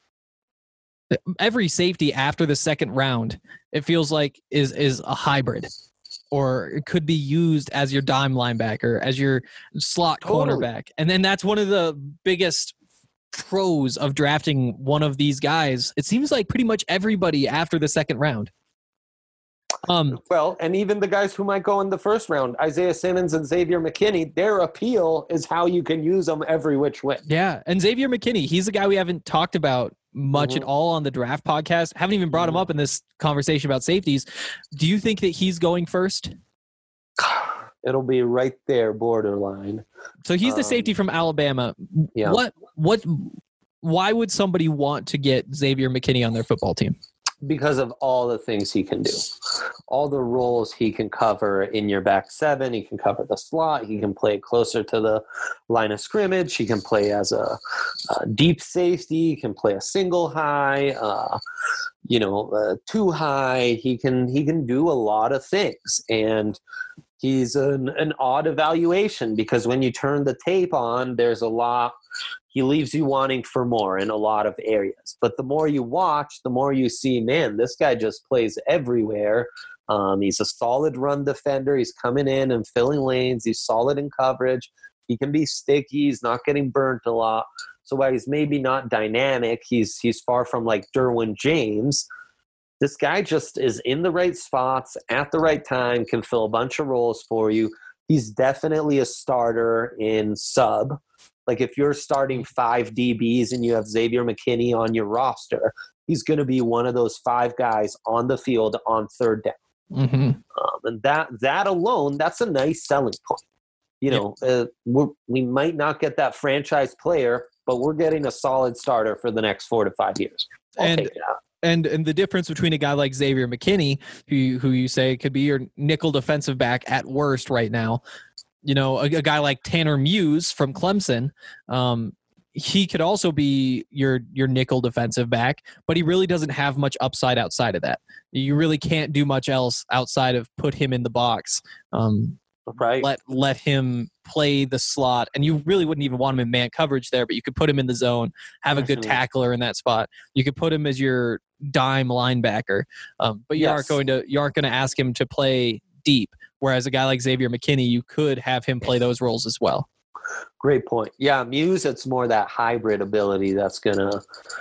safety after the second round, it feels like is a hybrid, or it could be used as your dime linebacker, as your slot cornerback. And then that's one of the biggest pros of drafting one of these guys. It seems like pretty much everybody after the second round. Well, and even the guys who might go in the first round, Isaiah Simmons and Xavier McKinney, their appeal is how you can use them every which way. Yeah, and Xavier McKinney, he's a guy we haven't talked about much at all on the draft podcast. Haven't even brought him up in this conversation about safeties. Do you think that he's going first? It'll be right there, borderline. So he's the safety from Alabama. Yeah. Why would somebody want to get Xavier McKinney on their football team? Because of all the things he can do, all the roles he can cover in your back seven. He can cover the slot. He can play closer to the line of scrimmage. He can play as a deep safety. He can play a single high, two high. He can do a lot of things, and he's an odd evaluation because when you turn the tape on, there's a lot. He leaves you wanting for more in a lot of areas. But the more you watch, the more you see, man, this guy just plays everywhere. He's a solid run defender. He's coming in and filling lanes. He's solid in coverage. He can be sticky. He's not getting burnt a lot. So while he's maybe not dynamic, he's far from like Derwin James. This guy just is in the right spots at the right time, can fill a bunch of roles for you. He's definitely a starter in sub. Like if you're starting 5 DBs and you have Xavier McKinney on your roster, he's going to be one of those 5 guys on the field on third down. Mm-hmm. And that alone, that's a nice selling point. We might not get that franchise player, but we're getting a solid starter for the next 4 to 5 years. I'll take that. And the difference between a guy like Xavier McKinney, who you say could be your nickel defensive back at worst right now, a guy like Tanner Muse from Clemson, he could also be your nickel defensive back, but he really doesn't have much upside outside of that. You really can't do much else outside of put him in the box. Right. Let him play the slot, and you really wouldn't even want him in man coverage there, but you could put him in the zone, have a good tackler in that spot. You could put him as your dime linebacker, but you aren't going to ask him to play deep. Whereas a guy like Xavier McKinney, you could have him play those roles as well. Great point. Yeah, Muse, it's more that hybrid ability that's gonna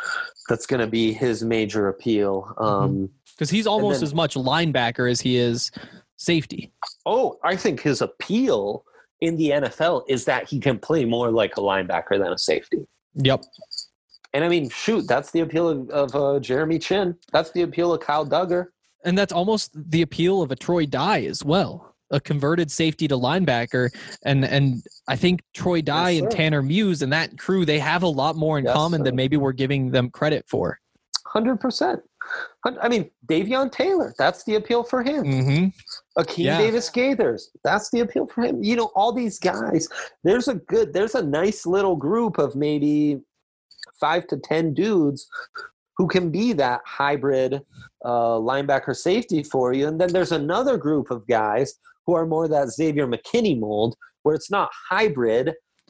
be his major appeal. Because he's almost as much linebacker as he is safety. Oh, I think his appeal in the NFL is that he can play more like a linebacker than a safety. Yep. And I mean, shoot, that's the appeal of Jeremy Chin. That's the appeal of Kyle Duggar. And that's almost the appeal of a Troy Dye as well, a converted safety to linebacker. And I think Troy Dye and Tanner Muse and that crew, they have a lot more in common than maybe we're giving them credit for. 100%. I mean, Davion Taylor, that's the appeal for him. Mm-hmm. Akeem Davis Gaithers, that's the appeal for him. All these guys, there's a nice little group of maybe 5 to 10 dudes who can be that hybrid linebacker safety for you. And then there's another group of guys who are more that Xavier McKinney mold, where it's not hybrid,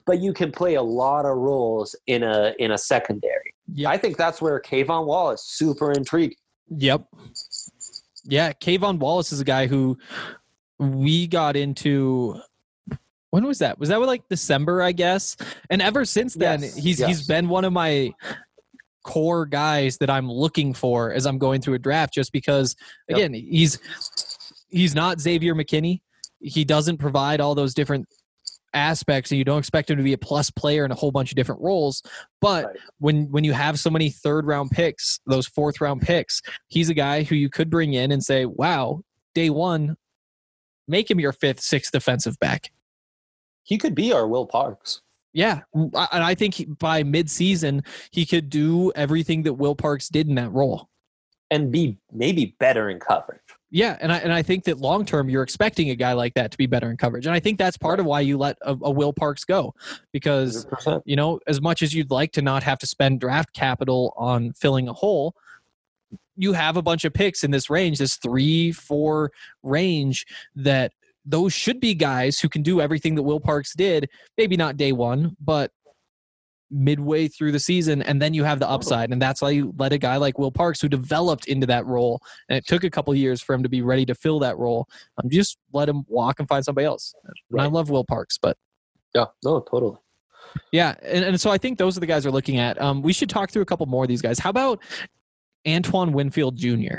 but you can play a lot of roles in a secondary. Yeah, I think that's where Kayvon Wallace super intriguing. Yep. Yeah, Kayvon Wallace is a guy who we got into. When was that? Was that like December, I guess? And ever since then, he's been one of my core guys that I'm looking for as I'm going through a draft, just because, again, he's not Xavier McKinney. He doesn't provide all those different aspects, and you don't expect him to be a plus player in a whole bunch of different roles. But when you have so many third-round picks, those fourth-round picks, he's a guy who you could bring in and say, wow, day one, make him your fifth, sixth defensive back. He could be our Will Parks. Yeah, and I think by mid-season, he could do everything that Will Parks did in that role. And be maybe better in coverage. Yeah, and I think that long-term, you're expecting a guy like that to be better in coverage. And I think that's part of why you let a Will Parks go. Because, 100%. you know, as much as you'd like to not have to spend draft capital on filling a hole, you have a bunch of picks in this range, this 3-4 range, that those should be guys who can do everything that Will Parks did, maybe not day one, but midway through the season, and then you have the upside. And that's why you let a guy like Will Parks, who developed into that role, and it took a couple of years for him to be ready to fill that role, just let him walk and find somebody else. And I love Will Parks, but yeah, no, totally. Yeah, and so I think those are the guys we're looking at. We should talk through a couple more of these guys. How about Antoine Winfield Jr.?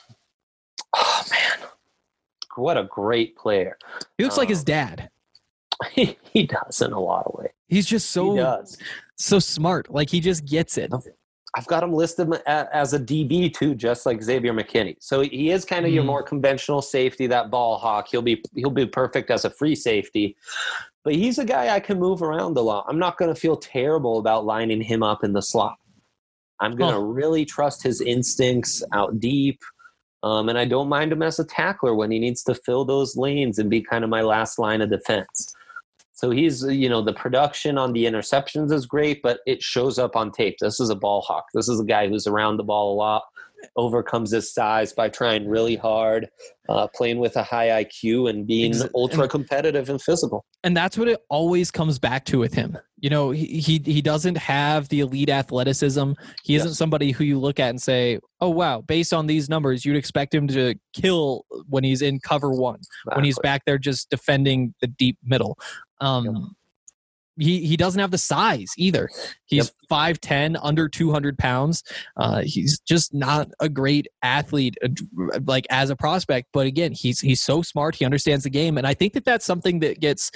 Oh, man. What a great player. He looks like his dad. He does in a lot of ways. He's just so smart. Like, he just gets it. I've got him listed as a DB too, just like Xavier McKinney. So he is kind of your more conventional safety, that ball hawk. He'll be perfect as a free safety. But he's a guy I can move around a lot. I'm not going to feel terrible about lining him up in the slot. I'm going to really trust his instincts out deep. And I don't mind him as a tackler when he needs to fill those lanes and be kind of my last line of defense. So he's, the production on the interceptions is great, but it shows up on tape. This is a ball hawk. This is a guy who's around the ball a lot, overcomes his size by trying really hard, playing with a high IQ and being ultra competitive and physical. And that's what it always comes back to with him. He doesn't have the elite athleticism. He isn't somebody who you look at and say, oh, wow, based on these numbers, you'd expect him to kill when he's in cover one, when he's back there just defending the deep middle. He doesn't have the size either. He's 5'10", under 200 pounds. He's just not a great athlete, like as a prospect. But again, he's so smart. He understands the game, and I think that's something that gets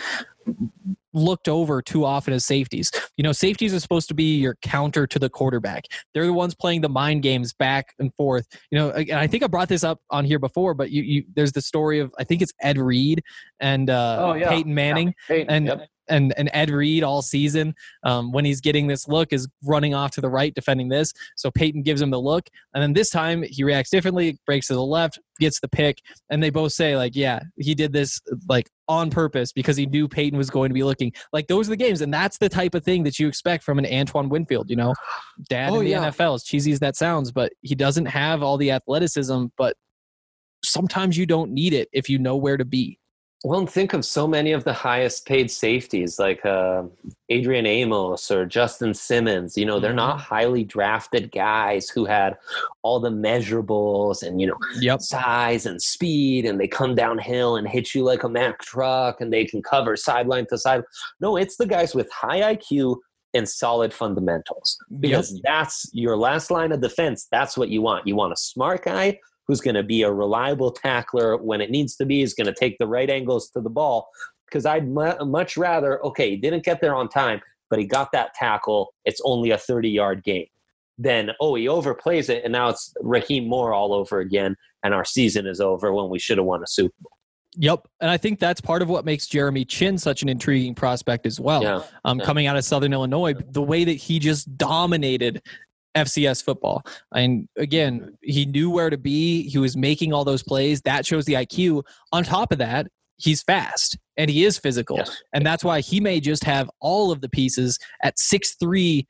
looked over too often as safeties. Safeties are supposed to be your counter to the quarterback. They're the ones playing the mind games back and forth. And I think I brought this up on here before, but there's the story of, I think it's Ed Reed and Peyton Manning. And Ed Reed all season, when he's getting this look, is running off to the right, defending this. So Peyton gives him the look. And then this time he reacts differently, breaks to the left, gets the pick. And they both say, like, yeah, he did this like on purpose because he knew Peyton was going to be looking. Like, those are the games. And that's the type of thing that you expect from an Antoine Winfield, dad in the NFL, as cheesy as that sounds, but he doesn't have all the athleticism, but sometimes you don't need it if you know where to be. Well, and think of so many of the highest paid safeties like Adrian Amos or Justin Simmons. They're not highly drafted guys who had all the measurables and, size and speed, and they come downhill and hit you like a Mack truck and they can cover sideline to side. No, it's the guys with high IQ and solid fundamentals, because that's your last line of defense. That's what you want. You want a smart guy who's going to be a reliable tackler when it needs to be, is going to take the right angles to the ball. Because I'd much rather, he didn't get there on time, but he got that tackle. It's only a 30-yard gain. Then, he overplays it, and now it's Raheem Moore all over again, and our season is over when we should have won a Super Bowl. Yep. And I think that's part of what makes Jeremy Chinn such an intriguing prospect as well. Coming out of Southern Illinois, the way that he just dominated FCS football. And again, he knew where to be. He was making all those plays. That shows the IQ. On top of that, he's fast and he is physical. Yes. And that's why he may just have all of the pieces at 6'3",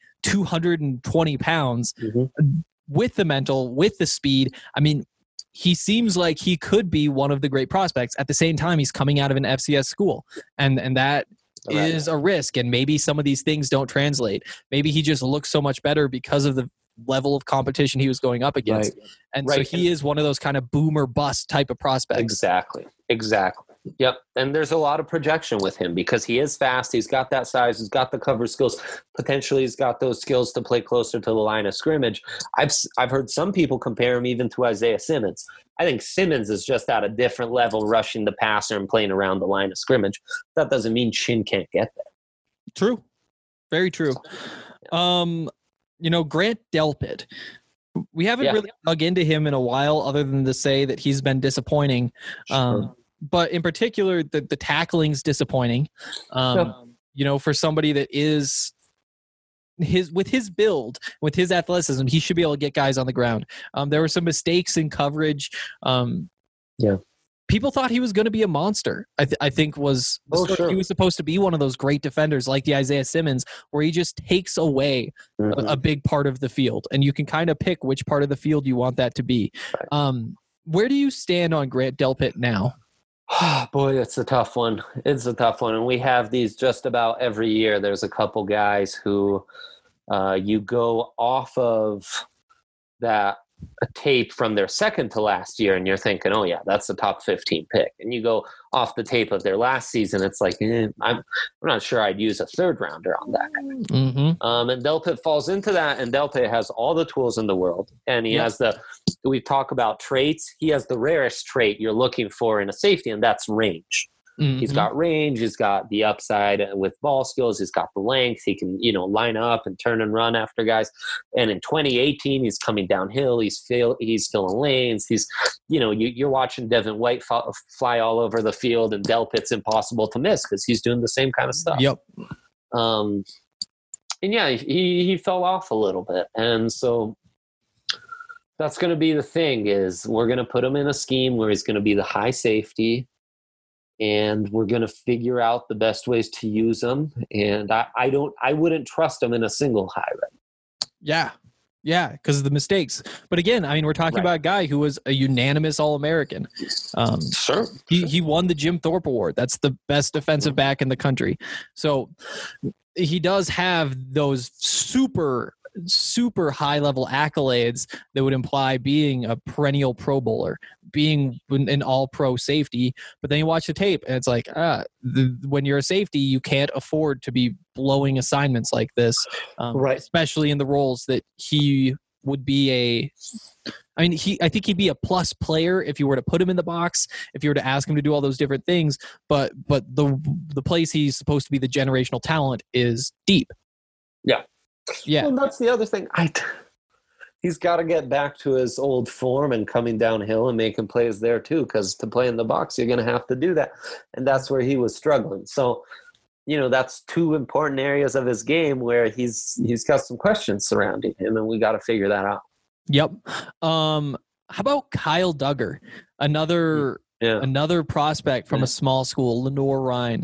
220 pounds with the mental, with the speed. I mean, he seems like he could be one of the great prospects. At the same time, he's coming out of an FCS school. And that is a risk, and maybe some of these things don't translate. Maybe he just looks so much better because of the level of competition he was going up against. Right. And so he is one of those kind of boomer bust type of prospects. Exactly. Yep. And there's a lot of projection with him because he is fast. He's got that size. He's got the cover skills. Potentially he's got those skills to play closer to the line of scrimmage. I've heard some people compare him even to Isaiah Simmons. I think Simmons is just at a different level, rushing the passer and playing around the line of scrimmage. That doesn't mean Chin can't get there. True. Very true. Grant Delpit, we haven't really dug into him in a while other than to say that he's been disappointing. Sure. But in particular, the tackling's disappointing. For somebody that is with his build, with his athleticism, he should be able to get guys on the ground. There were some mistakes in coverage. People thought he was going to be a monster. I think he was supposed to be one of those great defenders like the Isaiah Simmons, where he just takes away a big part of the field, and you can kind of pick which part of the field you want that to be. Right. Where do you stand on Grant Delpit now? Boy, it's a tough one. And we have these just about every year. There's a couple guys who you go off of that tape from their second to last year, and you're thinking, oh yeah, that's the top 15 pick. And you go off the tape of their last season, it's like, I'm not sure I'd use a third rounder on that guy. Mm-hmm. And Delpit falls into that, and Delpit has all the tools in the world, and he has we talk about traits. He has the rarest trait you're looking for in a safety, and that's range. Mm-hmm. He's got range. He's got the upside with ball skills. He's got the length. He can, line up and turn and run after guys. And in 2018, he's coming downhill. He's filling lanes. He's, you're watching Devin White fly all over the field, and Delpit's impossible to miss because he's doing the same kind of stuff. Yep. And yeah, he fell off a little bit, and so that's going to be the thing. Is we're going to put him in a scheme where he's going to be the high safety. And we're going to figure out the best ways to use them. And I wouldn't trust them in a single high rep. Yeah, because of the mistakes. But again, we're talking about a guy who was a unanimous All-American. Sure. He won the Jim Thorpe Award. That's the best defensive back in the country. So he does have those super high level accolades that would imply being a perennial Pro Bowler, being an all-pro safety. But then you watch the tape and it's like, when you're a safety, you can't afford to be blowing assignments like this, especially in the roles that he would be I think he'd be a plus player if you were to put him in the box, if you were to ask him to do all those different things. But the place he's supposed to be the generational talent is deep. Yeah. And that's the other thing. He's got to get back to his old form and coming downhill and making plays there too, because to play in the box, you're going to have to do that. And that's where he was struggling. So, that's two important areas of his game where he's got some questions surrounding him, and we got to figure that out. Yep. How about Kyle Duggar? Another prospect from a small school, Lenoir-Rhyne.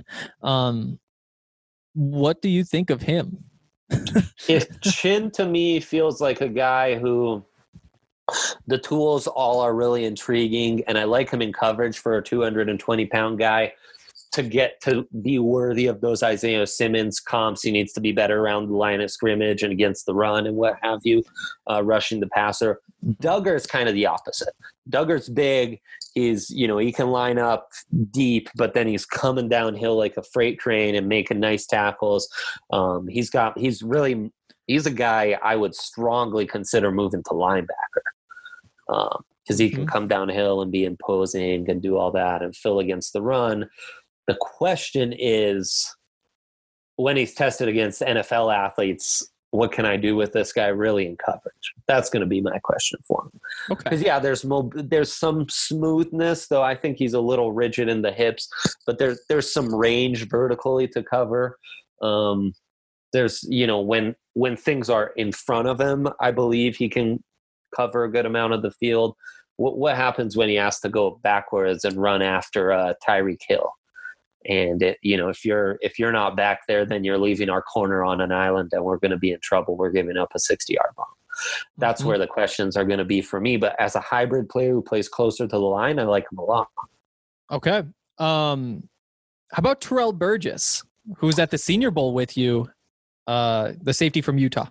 What do you think of him? If Chin to me feels like a guy who the tools all are really intriguing, and I like him in coverage for a 220-pound guy. To get to be worthy of those Isaiah Simmons comps, he needs to be better around the line of scrimmage and against the run and what have you, rushing the passer. Duggar's kind of the opposite. Duggar's big. He's, he can line up deep, but then he's coming downhill like a freight train and making nice tackles. He's a guy I would strongly consider moving to linebacker. Because he can come downhill and be imposing and do all that and fill against the run. The question is, when he's tested against NFL athletes, what can I do with this guy really in coverage? That's going to be my question for him. Okay. Because there's some smoothness, though I think he's a little rigid in the hips, but there's some range vertically to cover. There's when things are in front of him, I believe he can cover a good amount of the field. What happens when he has to go backwards and run after Tyreek Hill? And if you're not back there, then you're leaving our corner on an island, and we're going to be in trouble. We're giving up a 60-yard bomb. That's where the questions are going to be for me. But as a hybrid player who plays closer to the line, I like him a lot. Okay. How about Terrell Burgess? who's at the Senior Bowl with you, the safety from Utah.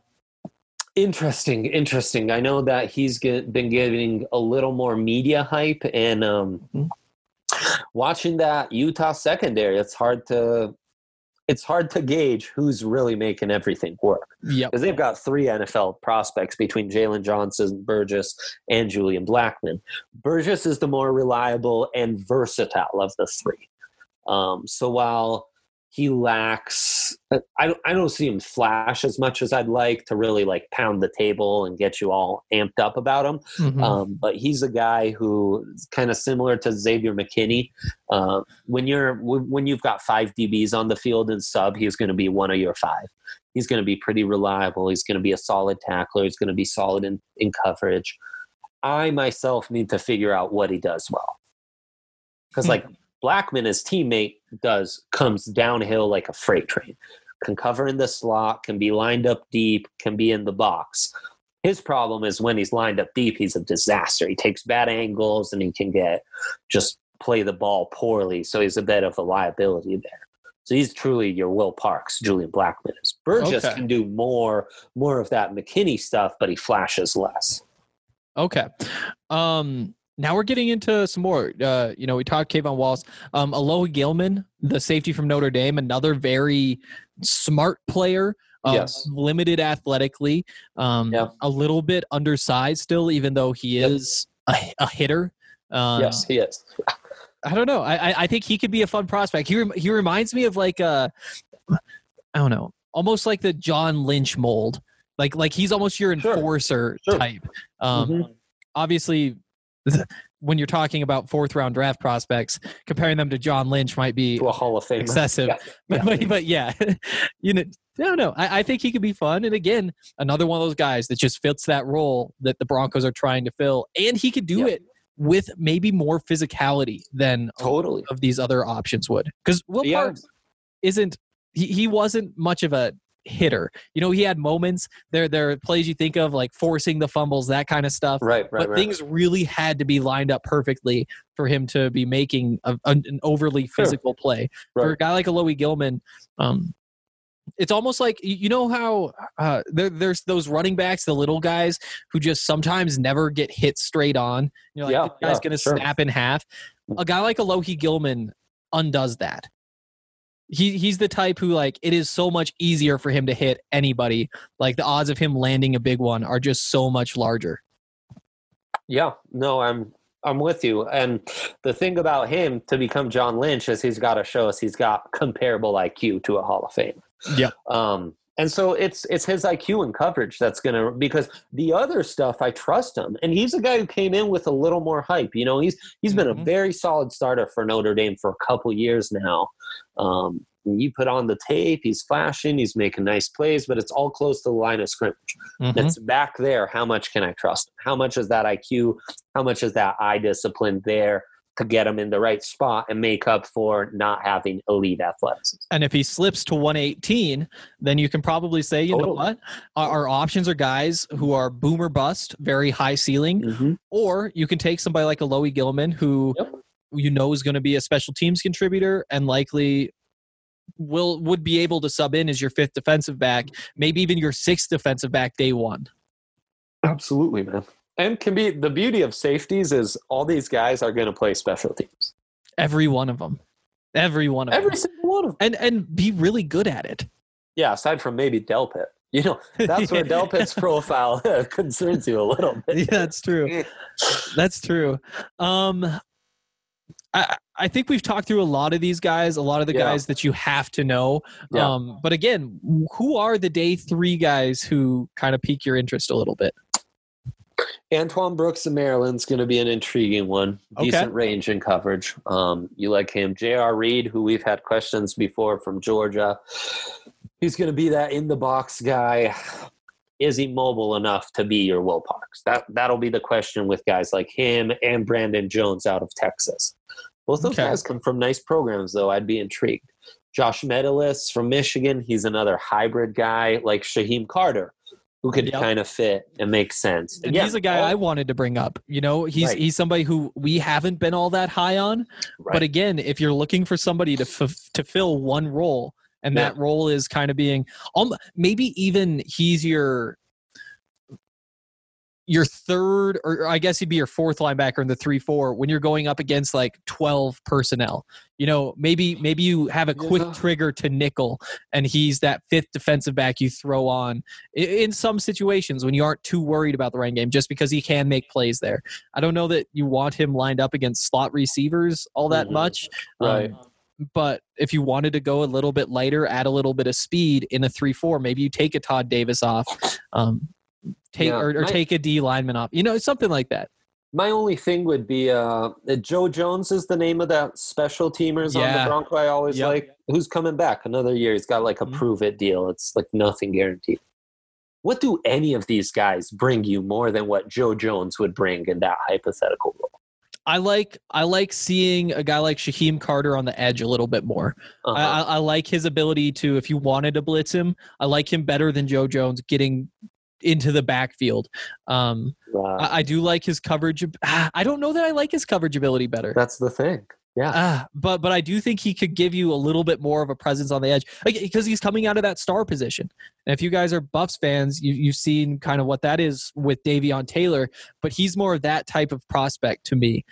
Interesting. I know that he's been getting a little more media hype, and watching that Utah secondary, it's hard to gauge who's really making everything work. Yep. Because they've got 3 NFL prospects between Jalen Johnson, Burgess, and Julian Blackmon. Burgess is the more reliable and versatile of the 3. So while he lacks, I don't see him flash as much as I'd like to really like pound the table and get you all amped up about him. Mm-hmm. But he's a guy who is kind of similar to Xavier McKinney. When you've got 5 DBs on the field and sub, he's going to be one of your 5. He's going to be pretty reliable. He's going to be a solid tackler. He's going to be solid in coverage. I myself need to figure out what he does well. Because like Blackmon, his teammate, comes downhill like a freight train. Can cover in the slot, can be lined up deep, can be in the box. His problem is when he's lined up deep, he's a disaster. He takes bad angles and he can just play the ball poorly. So he's a bit of a liability there. So he's truly your Will Parks, Julian Blackmon is. Burgess can do more of that McKinney stuff, but he flashes less. Okay. Now we're getting into some more. We talked Kayvon Wallace. Alohi Gilman, the safety from Notre Dame, another very smart player. Yes. Limited athletically. A little bit undersized still, even though he is a hitter. Yes, he is. I don't know. I think he could be a fun prospect. He reminds me of like I don't know, almost like the John Lynch mold. Like he's almost your enforcer type. Obviously, when you're talking about 4th round draft prospects, comparing them to John Lynch might be to a Hall of Fame excessive. But yeah, I don't know. I think he could be fun. And again, another one of those guys that just fits that role that the Broncos are trying to fill, and he could do it with maybe more physicality than totally of these other options would. Because Will Parks isn't. He wasn't much of a hitter. He had moments. There are plays you think of like forcing the fumbles, that kind of stuff. Right. Things really had to be lined up perfectly for him to be making an overly physical play. For a guy like Alohi Gilman, it's almost like how there's those running backs, the little guys who just sometimes never get hit straight on. You're like, this guy's going to snap in half. A guy like Alohi Gilman undoes that. He's the type who, like, it is so much easier for him to hit anybody. Like, the odds of him landing a big one are just so much larger. Yeah, no, I'm with you. And the thing about him to become John Lynch is he's got to show us he's got comparable IQ to a Hall of Fame. Yeah. And so it's his IQ and coverage that's going to, because the other stuff, I trust him. And he's a guy who came in with a little more hype. He's been a very solid starter for Notre Dame for a couple years now. You put on the tape, he's flashing, he's making nice plays, but it's all close to the line of scrimmage. It's back there. How much can I trust him? How much is that IQ? How much is that eye discipline there to get him in the right spot and make up for not having elite athleticism? And if he slips to 118, then you can probably say, you know what? Our options are guys who are boom or bust, very high ceiling, or you can take somebody like Alohi Gilman who is going to be a special teams contributor and likely would be able to sub in as your 5th defensive back, maybe even your 6th defensive back day one. Absolutely, man. And can be the beauty of safeties is all these guys are going to play special teams. Every one of them. Every single one of them. And be really good at it. Yeah, aside from maybe Delpit. That's where Delpit's profile concerns you a little bit. Yeah, that's true. That's true. I think we've talked through a lot of these guys, a lot of the guys that you have to know. But again, who are the day 3 guys who kind of pique your interest a little bit? Antoine Brooks of Maryland's going to be an intriguing one. Decent range and coverage. You like him. J.R. Reed, who we've had questions before from Georgia. He's going to be that in-the-box guy. Is he mobile enough to be your Will Parks? That'll be the question with guys like him and Brandon Jones out of Texas. Both those guys come from nice programs, though. I'd be intrigued. Josh Metellus from Michigan. He's another hybrid guy like Shaheem Carter, who could kind of fit and make sense. And he's a guy I wanted to bring up. He's somebody who we haven't been all that high on. Right. But again, if you're looking for somebody to fill one role, And that role is kind of being maybe even he's your third, or I guess he'd be your fourth linebacker in the 3-4 when you're going up against like 12 personnel. Maybe you have a quick trigger to nickel and he's that fifth defensive back you throw on in some situations when you aren't too worried about the running game, just because he can make plays there. I don't know that you want him lined up against slot receivers all that much. Right. But if you wanted to go a little bit lighter, add a little bit of speed in a 3-4, maybe you take a Todd Davis off. Take a D lineman off, something like that. My only thing would be Joe Jones is the name of that special teamers on the Bronco. I always like, who's coming back another year. He's got like a prove it deal. It's like nothing guaranteed. What do any of these guys bring you more than what Joe Jones would bring in that hypothetical role? I like seeing a guy like Shaheem Carter on the edge a little bit more. I like his ability to, if you wanted to blitz him, I like him better than Joe Jones getting into the backfield. I do like his coverage. I don't know that I like his coverage ability better. That's the thing. Yeah. But I do think he could give you a little bit more of a presence on the edge, because he's coming out of that star position. And if you guys are Buffs fans, you've seen kind of what that is with Davion Taylor, but he's more of that type of prospect to me.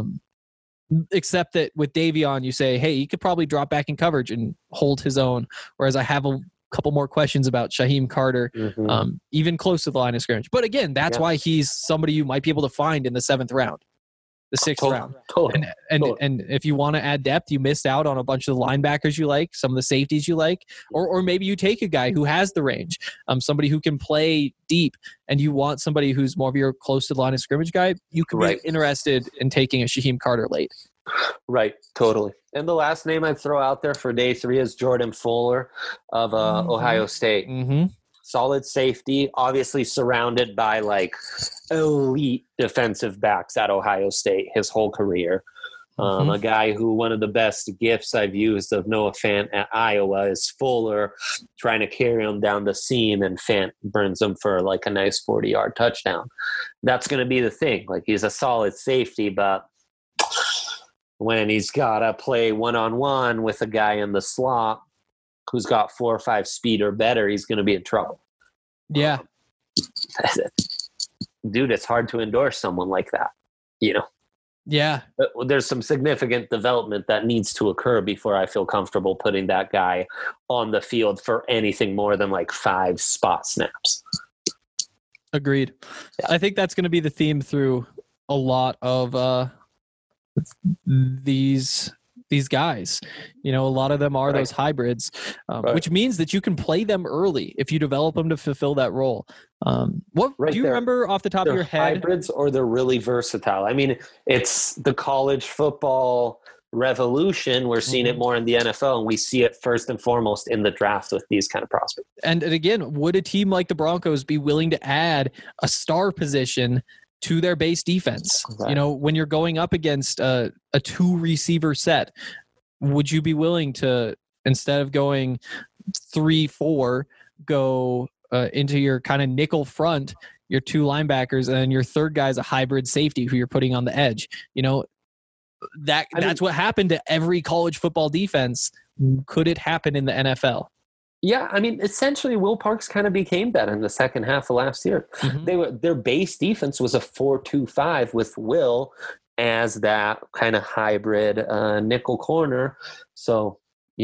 Except that with Davion, you say, hey, he could probably drop back in coverage and hold his own. Whereas I have a couple more questions about Shaheem Carter, even close to the line of scrimmage. But again, that's why he's somebody you might be able to find in the 7th round, the 6th round. And if you want to add depth, you missed out on a bunch of the linebackers you like, some of the safeties you like, or maybe you take a guy who has the range, somebody who can play deep, and you want somebody who's more of your close to the line of scrimmage guy. You could be interested in taking a Shaheem Carter late. Right, totally. And the last name I'd throw out there for day 3 is Jordan Fuller of Ohio State. Solid safety, obviously surrounded by like elite defensive backs at Ohio State his whole career. A guy who, one of the best gifts I've used of Noah Fant at Iowa is Fuller trying to carry him down the seam, and Fant burns him for like a nice 40-yard touchdown. That's going to be the thing. Like, he's a solid safety, but when he's got to play one-on-one with a guy in the slot who's got 4 or 5 speed or better, he's going to be in trouble. Yeah. Dude, it's hard to endorse someone like that, Yeah. There's some significant development that needs to occur before I feel comfortable putting that guy on the field for anything more than like 5 spot snaps. Agreed. Yeah. I think that's going to be the theme through a lot of these guys. A lot of them are those hybrids, which means that you can play them early if you develop them to fulfill that role. Do you remember off the top of your head? Hybrids, or they're really versatile? I mean, it's the college football revolution. We're seeing it more in the NFL, and we see it first and foremost in the draft with these kind of prospects. And again, would a team like the Broncos be willing to add a star position to their base defense? Right. When you're going up against a 2 receiver set, would you be willing to, instead of going 3-4, go into your kind of nickel front, your 2 linebackers, and then your third guy's a hybrid safety who you're putting on the edge? That's what happened to every college football defense. Could it happen in the NFL? Yeah, I mean, essentially, Will Parks kind of became that in the second half of last year. Their base defense was a 4-2-5 with Will as that kind of hybrid nickel corner. So,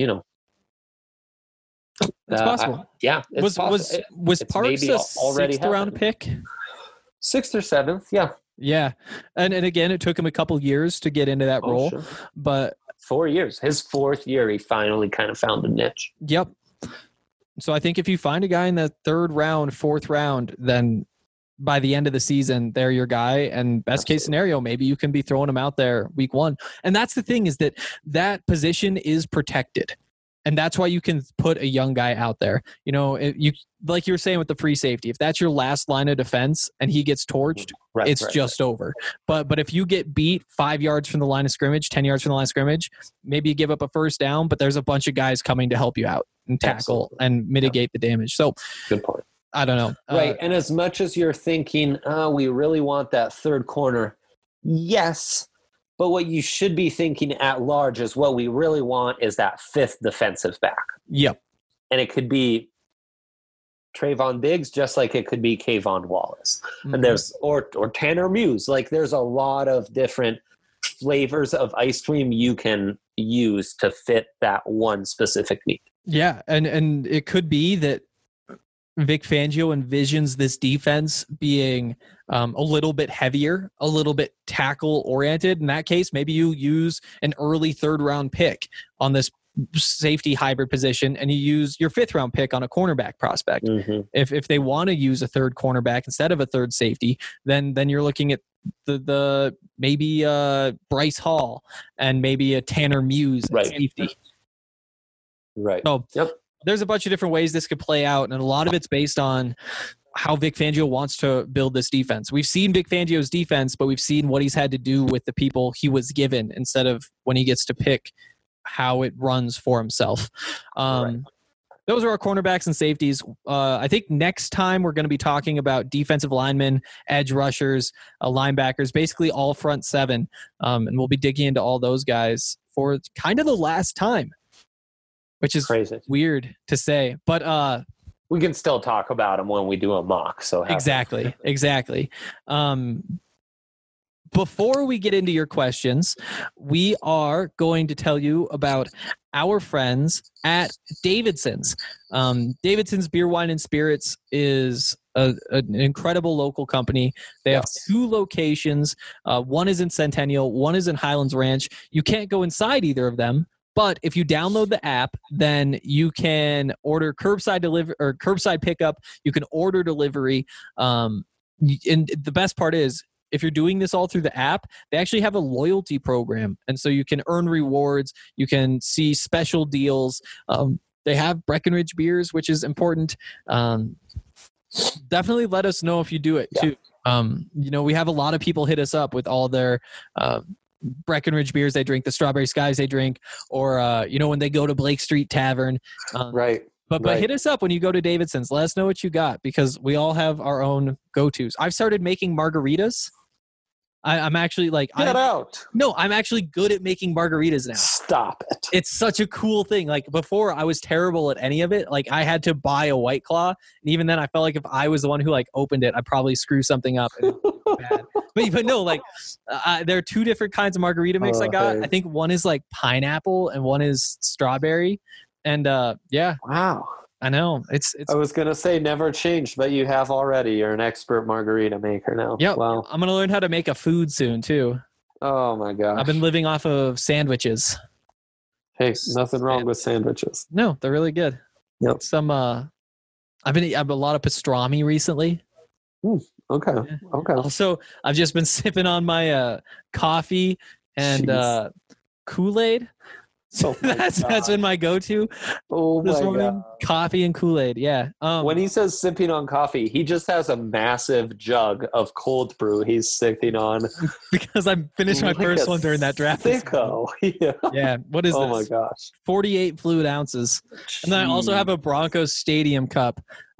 it's possible. It's possible. Was Parks a 6th round pick? 6th or 7th, yeah. Yeah, and again, it took him a couple years to get into that role, sure. But 4 years. His 4th year, he finally kind of found a niche. Yep. So I think if you find a guy in the 3rd round, 4th round, then by the end of the season, they're your guy. And best case scenario, maybe you can be throwing him out there week 1. And that's the thing, is that position is protected. And that's why you can put a young guy out there. Like you were saying with the free safety, if that's your last line of defense and he gets torched, it's just over. But if you get beat 5 yards from the line of scrimmage, 10 yards from the line of scrimmage, maybe you give up a first down, but there's a bunch of guys coming to help you out and tackle and mitigate the damage. So good point. I don't know. Right. And as much as you're thinking, we really want that 3rd corner. Yes. But what you should be thinking at large is what we really want is that fifth defensive back. Yep. And it could be Trayvon Diggs, just like it could be Kayvon Wallace. Mm-hmm. And there's or Tanner Muse. Like there's a lot of different flavors of ice cream you can use to fit that one specific need. Yeah, and it could be that Vic Fangio envisions this defense being a little bit heavier, a little bit tackle oriented. In that case, maybe you use an early third round pick on this safety hybrid position, and you use your fifth round pick on a cornerback prospect. Mm-hmm. If they want to use a third cornerback instead of a third safety, then you're looking at the maybe Bryce Hall and maybe a Tanner Muse at safety. Right. So yep. There's a bunch of different ways this could play out, and a lot of it's based on how Vic Fangio wants to build this defense. We've seen Vic Fangio's defense, but we've seen what he's had to do with the people he was given instead of when he gets to pick how it runs for himself. Those are our cornerbacks and safeties. I think next time we're going to be talking about defensive linemen, edge rushers, linebackers, basically all front seven. And we'll be digging into all those guys for kind of the last time, which is crazy, weird to say. But we can still talk about them when we do a mock. So exactly. Before we get into your questions, we are going to tell you about our friends at Davidson's. Davidson's Beer, Wine, and Spirits is an incredible local company. They have two locations. One is in Centennial, one is in Highlands Ranch. You can't go inside either of them, but if you download the app, then you can order curbside delivery or curbside pickup. You can order delivery. And the best part is, if you're doing this all through the app, they actually have a loyalty program. And so you can earn rewards. You can see special deals. They have Breckenridge beers, which is important. Definitely let us know if you do it too. We have a lot of people hit us up with all their Breckenridge beers they drink, the Strawberry Skies they drink, or, when they go to Blake Street Tavern. Right. But hit us up when you go to Davidson's. Let us know what you got, because we all have our own go-tos. I've started making margaritas. I'm actually I'm actually good at making margaritas now. Stop it. It's such a cool thing. Like before, I was terrible at any of it. Like I had to buy a White Claw, and even then, I felt like if I was the one who opened it, I'd probably screw something up. And it would be bad. But no, there are two different kinds of margarita mix I got. I think one is pineapple and one is strawberry. And wow. I know. It's I was going to say never changed, but you have already. You're an expert margarita maker now. Yeah. Wow. I'm going to learn how to make a food soon too. Oh my gosh. I've been living off of sandwiches. Hey, nothing wrong with sandwiches. No, they're really good. Yep. I've a lot of pastrami recently. Okay. Yeah. Okay. Also, I've just been sipping on my coffee and Kool-Aid. So that's been my go-to. Oh my God. Coffee and Kool-Aid. Yeah. When he says sipping on coffee, he just has a massive jug of cold brew he's sipping on. Because I finished my first one during that draft. Sicko. Yeah. What is this? Oh my gosh. 48 fluid ounces. Jeez. And then I also have a Broncos Stadium cup.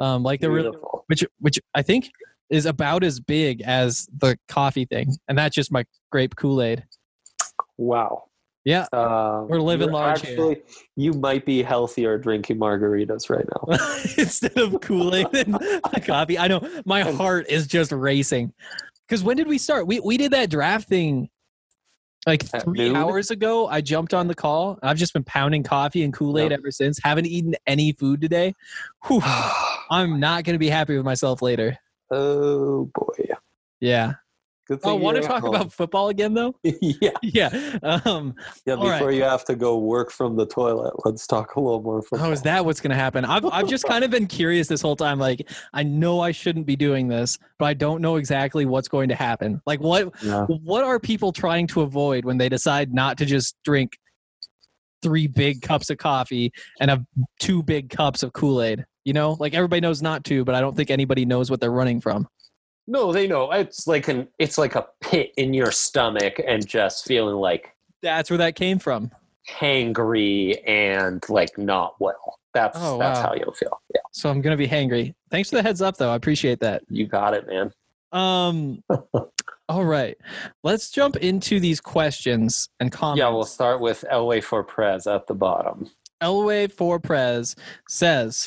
Which I think is about as big as the coffee thing. And that's just my grape Kool-Aid. Wow. Yeah, we're living large here. You might be healthier drinking margaritas right now. Instead of Kool-Aid and coffee. I know, my heart is just racing. Because when did we start? We did that draft thing 3 hours ago. I jumped on the call. I've just been pounding coffee and Kool-Aid ever since. Haven't eaten any food today. Whew. I'm not going to be happy with myself later. Oh, boy. Yeah. Want to talk about football again, though? Yeah. Before you have to go work from the toilet, let's talk a little more football. Oh, is that what's going to happen? I've just kind of been curious this whole time. I know I shouldn't be doing this, but I don't know exactly what's going to happen. What are people trying to avoid when they decide not to just drink 3 big cups of coffee and have 2 big cups of Kool-Aid? Everybody knows not to, but I don't think anybody knows what they're running from. No, they know. It's like a pit in your stomach and just feeling that's where that came from. Hangry and not well. That's how you'll feel. Yeah. So I'm gonna be hangry. Thanks for the heads up, though. I appreciate that. You got it, man. All right. Let's jump into these questions and comments. Yeah, we'll start with Elway for Prez at the bottom. Elway for Prez says,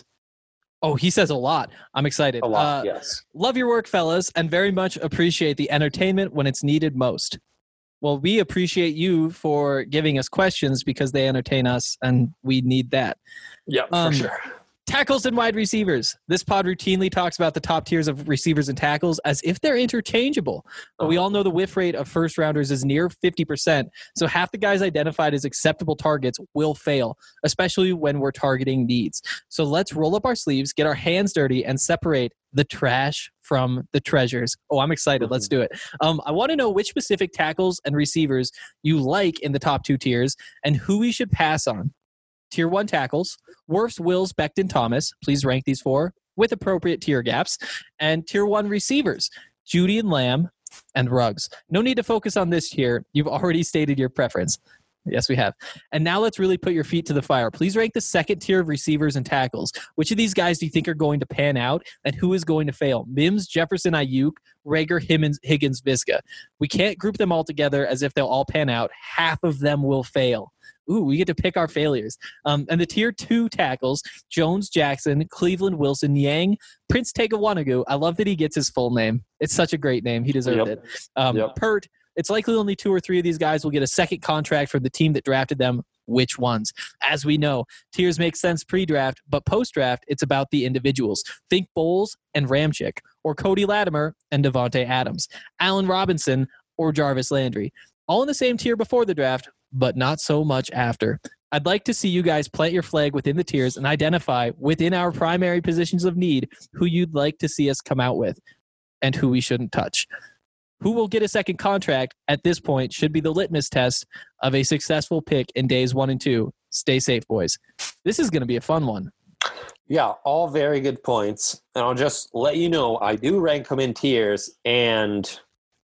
he says a lot. I'm excited. A lot, yes. Love your work, fellas, and very much appreciate the entertainment when it's needed most. Well, we appreciate you for giving us questions because they entertain us, and we need that. Yeah, for sure. Tackles and wide receivers. This pod routinely talks about the top tiers of receivers and tackles as if they're interchangeable. But we all know the whiff rate of first rounders is near 50%. So half the guys identified as acceptable targets will fail, especially when we're targeting needs. So let's roll up our sleeves, get our hands dirty, and separate the trash from the treasures. Oh, I'm excited. Let's do it. I want to know which specific tackles and receivers you like in the top 2 tiers and who we should pass on. Tier 1 tackles, Wirfs, Wills, Becton, Thomas. Please rank these 4 with appropriate tier gaps. And Tier 1 receivers, Judy and Lamb and Ruggs. No need to focus on this tier. You've already stated your preference. Yes, we have. And now let's really put your feet to the fire. Please rank the second tier of receivers and tackles. Which of these guys do you think are going to pan out and who is going to fail? Mims, Jefferson, Ayuk, Rager, Higgins, Visca. We can't group them all together as if they'll all pan out. Half of them will fail. Ooh, we get to pick our failures. And the tier 2 tackles, Jones, Jackson, Cleveland, Wilson, Yang, Prince Tegawanagu. I love that he gets his full name. It's such a great name. He deserved it. Pert. It's likely only 2 or 3 of these guys will get a second contract from the team that drafted them. Which ones? As we know, tiers make sense pre-draft, but post-draft, it's about the individuals. Think Bowles and Ramchick, or Cody Latimer and Devontae Adams, Allen Robinson or Jarvis Landry. All in the same tier before the draft, but not so much after. I'd like to see you guys plant your flag within the tiers and identify within our primary positions of need who you'd like to see us come out with and who we shouldn't touch. Who will get a second contract at this point should be the litmus test of a successful pick in days 1 and 2. Stay safe, boys. This is going to be a fun one. Yeah, all very good points. And I'll just let you know, I do rank them in tiers, and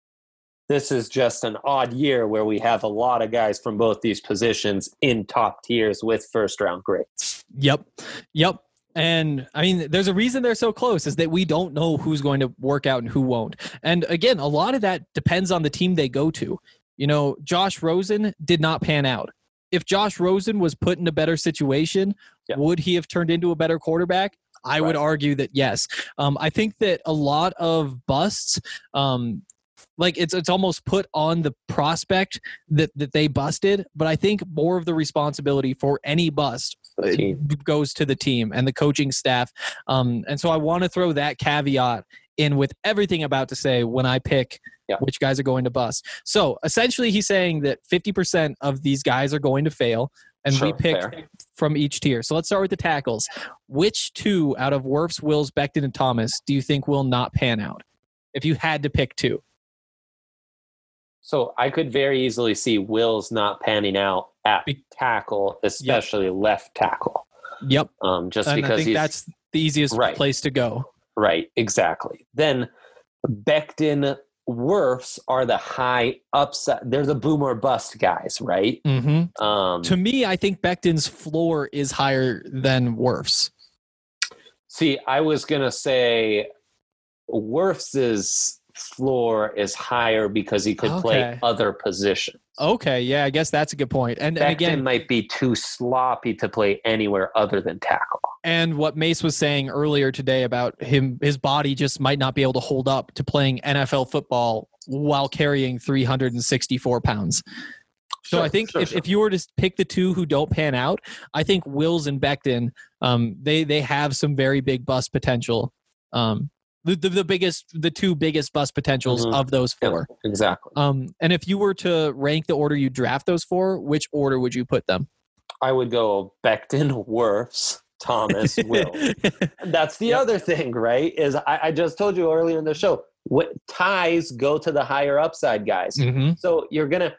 this is just an odd year where we have a lot of guys from both these positions in top tiers with first-round grades. Yep. And I mean, there's a reason they're so close is that we don't know who's going to work out and who won't. And again, a lot of that depends on the team they go to. You know, Josh Rosen did not pan out. If Josh Rosen was put in a better situation, would he have turned into a better quarterback? I would argue that yes. I think that a lot of busts, like it's almost put on the prospect that they busted, but I think more of the responsibility for any bust goes to the team and the coaching staff. And so I want to throw that caveat in with everything I'm about to say when I pick which guys are going to bust. So essentially he's saying that 50% of these guys are going to fail, and we pick from each tier. So let's start with the tackles. Which 2 out of Wirfs, Wills, Becton, and Thomas do you think will not pan out if you had to pick 2? So I could very easily see Wills not panning out at tackle, especially left tackle. Yep. Just and because I think that's the easiest place to go. Right, exactly. Then Becton, Wirfs are the high upside. There's a boom or bust guys, right? Mm-hmm. To me, I think Becton's floor is higher than Wirfs. See, I was going to say Wirfs's floor is higher because he could play other positions. Okay, yeah, I guess that's a good point. And again, might be too sloppy to play anywhere other than tackle. And what Mace was saying earlier today about his body just might not be able to hold up to playing NFL football while carrying 364 pounds. So I think if you were to pick the 2 who don't pan out, I think Wills and Becton, they have some very big bust potential. The 2 biggest bust potentials of those 4. Yeah, exactly. And if you were to rank the order you draft those for, which order would you put them? I would go Becton, Wirfs, Thomas, Will. That's the other thing, right? Is I just told you earlier in the show, what ties go to the higher upside guys. Mm-hmm. So you're gonna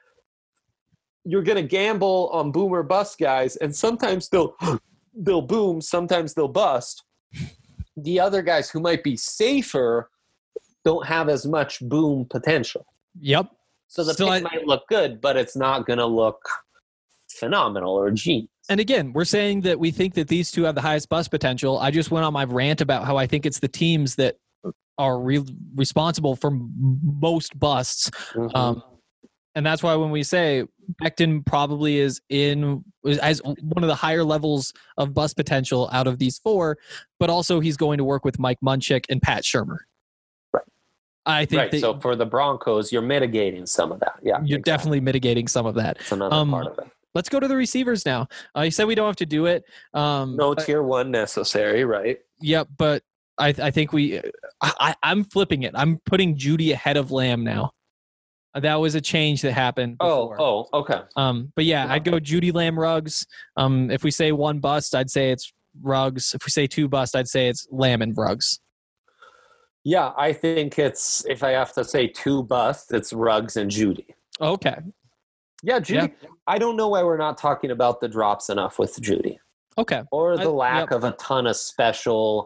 gamble on boom or bust guys, and sometimes they'll boom, sometimes they'll bust. The other guys who might be safer don't have as much boom potential. Yep. So the pick might look good, but it's not going to look phenomenal or genius. And again, we're saying that we think that these 2 have the highest bust potential. I just went on my rant about how I think it's the teams that are responsible for most busts. Mm-hmm. And that's why when we say Becton probably has one of the higher levels of bust potential out of these four, but also he's going to work with Mike Munchak and Pat Shurmur. Right. I think so for the Broncos, you're mitigating some of that. Yeah, you're definitely mitigating some of that. That's another part of it. Let's go to the receivers now. You said we don't have to do it. No tier one necessary, right? Yep, but I think I'm flipping it. I'm putting Judy ahead of Lamb now. That was a change that happened before. Oh, okay. But yeah, I'd go Judy, Lamb, Ruggs. If we say one bust, I'd say it's Ruggs. If we say two bust, I'd say it's Lamb and Ruggs. Yeah, I think if I have to say two bust, it's Ruggs and Judy. Okay. Yeah, Judy. Yeah. I don't know why we're not talking about the drops enough with Judy. Okay. Or the lack of a ton of special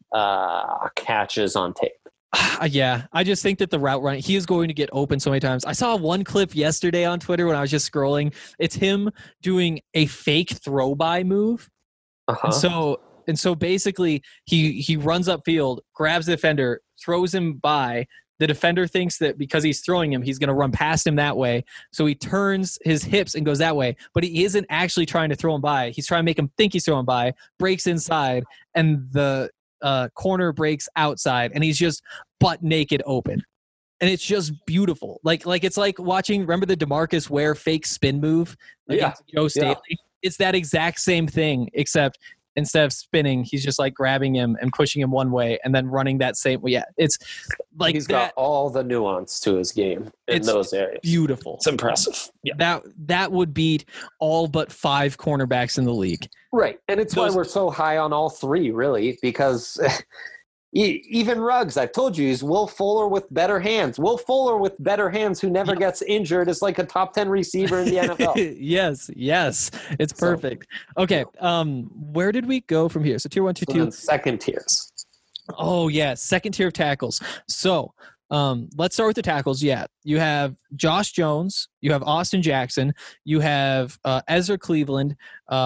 catches on tape. Yeah, I just think that the route running, he is going to get open so many times. I saw one clip yesterday on Twitter when I was just scrolling. It's him doing a fake throw by move. Uh-huh. And so basically he runs upfield, grabs the defender, throws him by. The defender thinks that because he's throwing him, he's going to run past him that way. So he turns his hips and goes that way. But he isn't actually trying to throw him by. He's trying to make him think he's throwing by, breaks inside, and the corner breaks outside, and he's just butt naked open. And it's just beautiful. Like it's like watching, remember the DeMarcus Ware fake spin move against Joe Staley? Yeah. It's that exact same thing, except instead of spinning, he's just like grabbing him and pushing him one way and then running that same way. Yeah, it's like he's got all the nuance to his game in those areas. Beautiful. It's impressive. Yeah. That would beat all but 5 cornerbacks in the league. Right. And it's why we're so high on all 3, really, because even Ruggs, I've told you, he's Will Fuller with better hands. Will Fuller with better hands who never gets injured is like a top 10 receiver in the NFL. Yes. It's perfect. Okay. Where did we go from here? So tier 1, 2, 2. Second tiers. Oh, yeah. Second tier of tackles. So let's start with the tackles. Yeah. You have Josh Jones. You have Austin Jackson. You have Ezra Cleveland.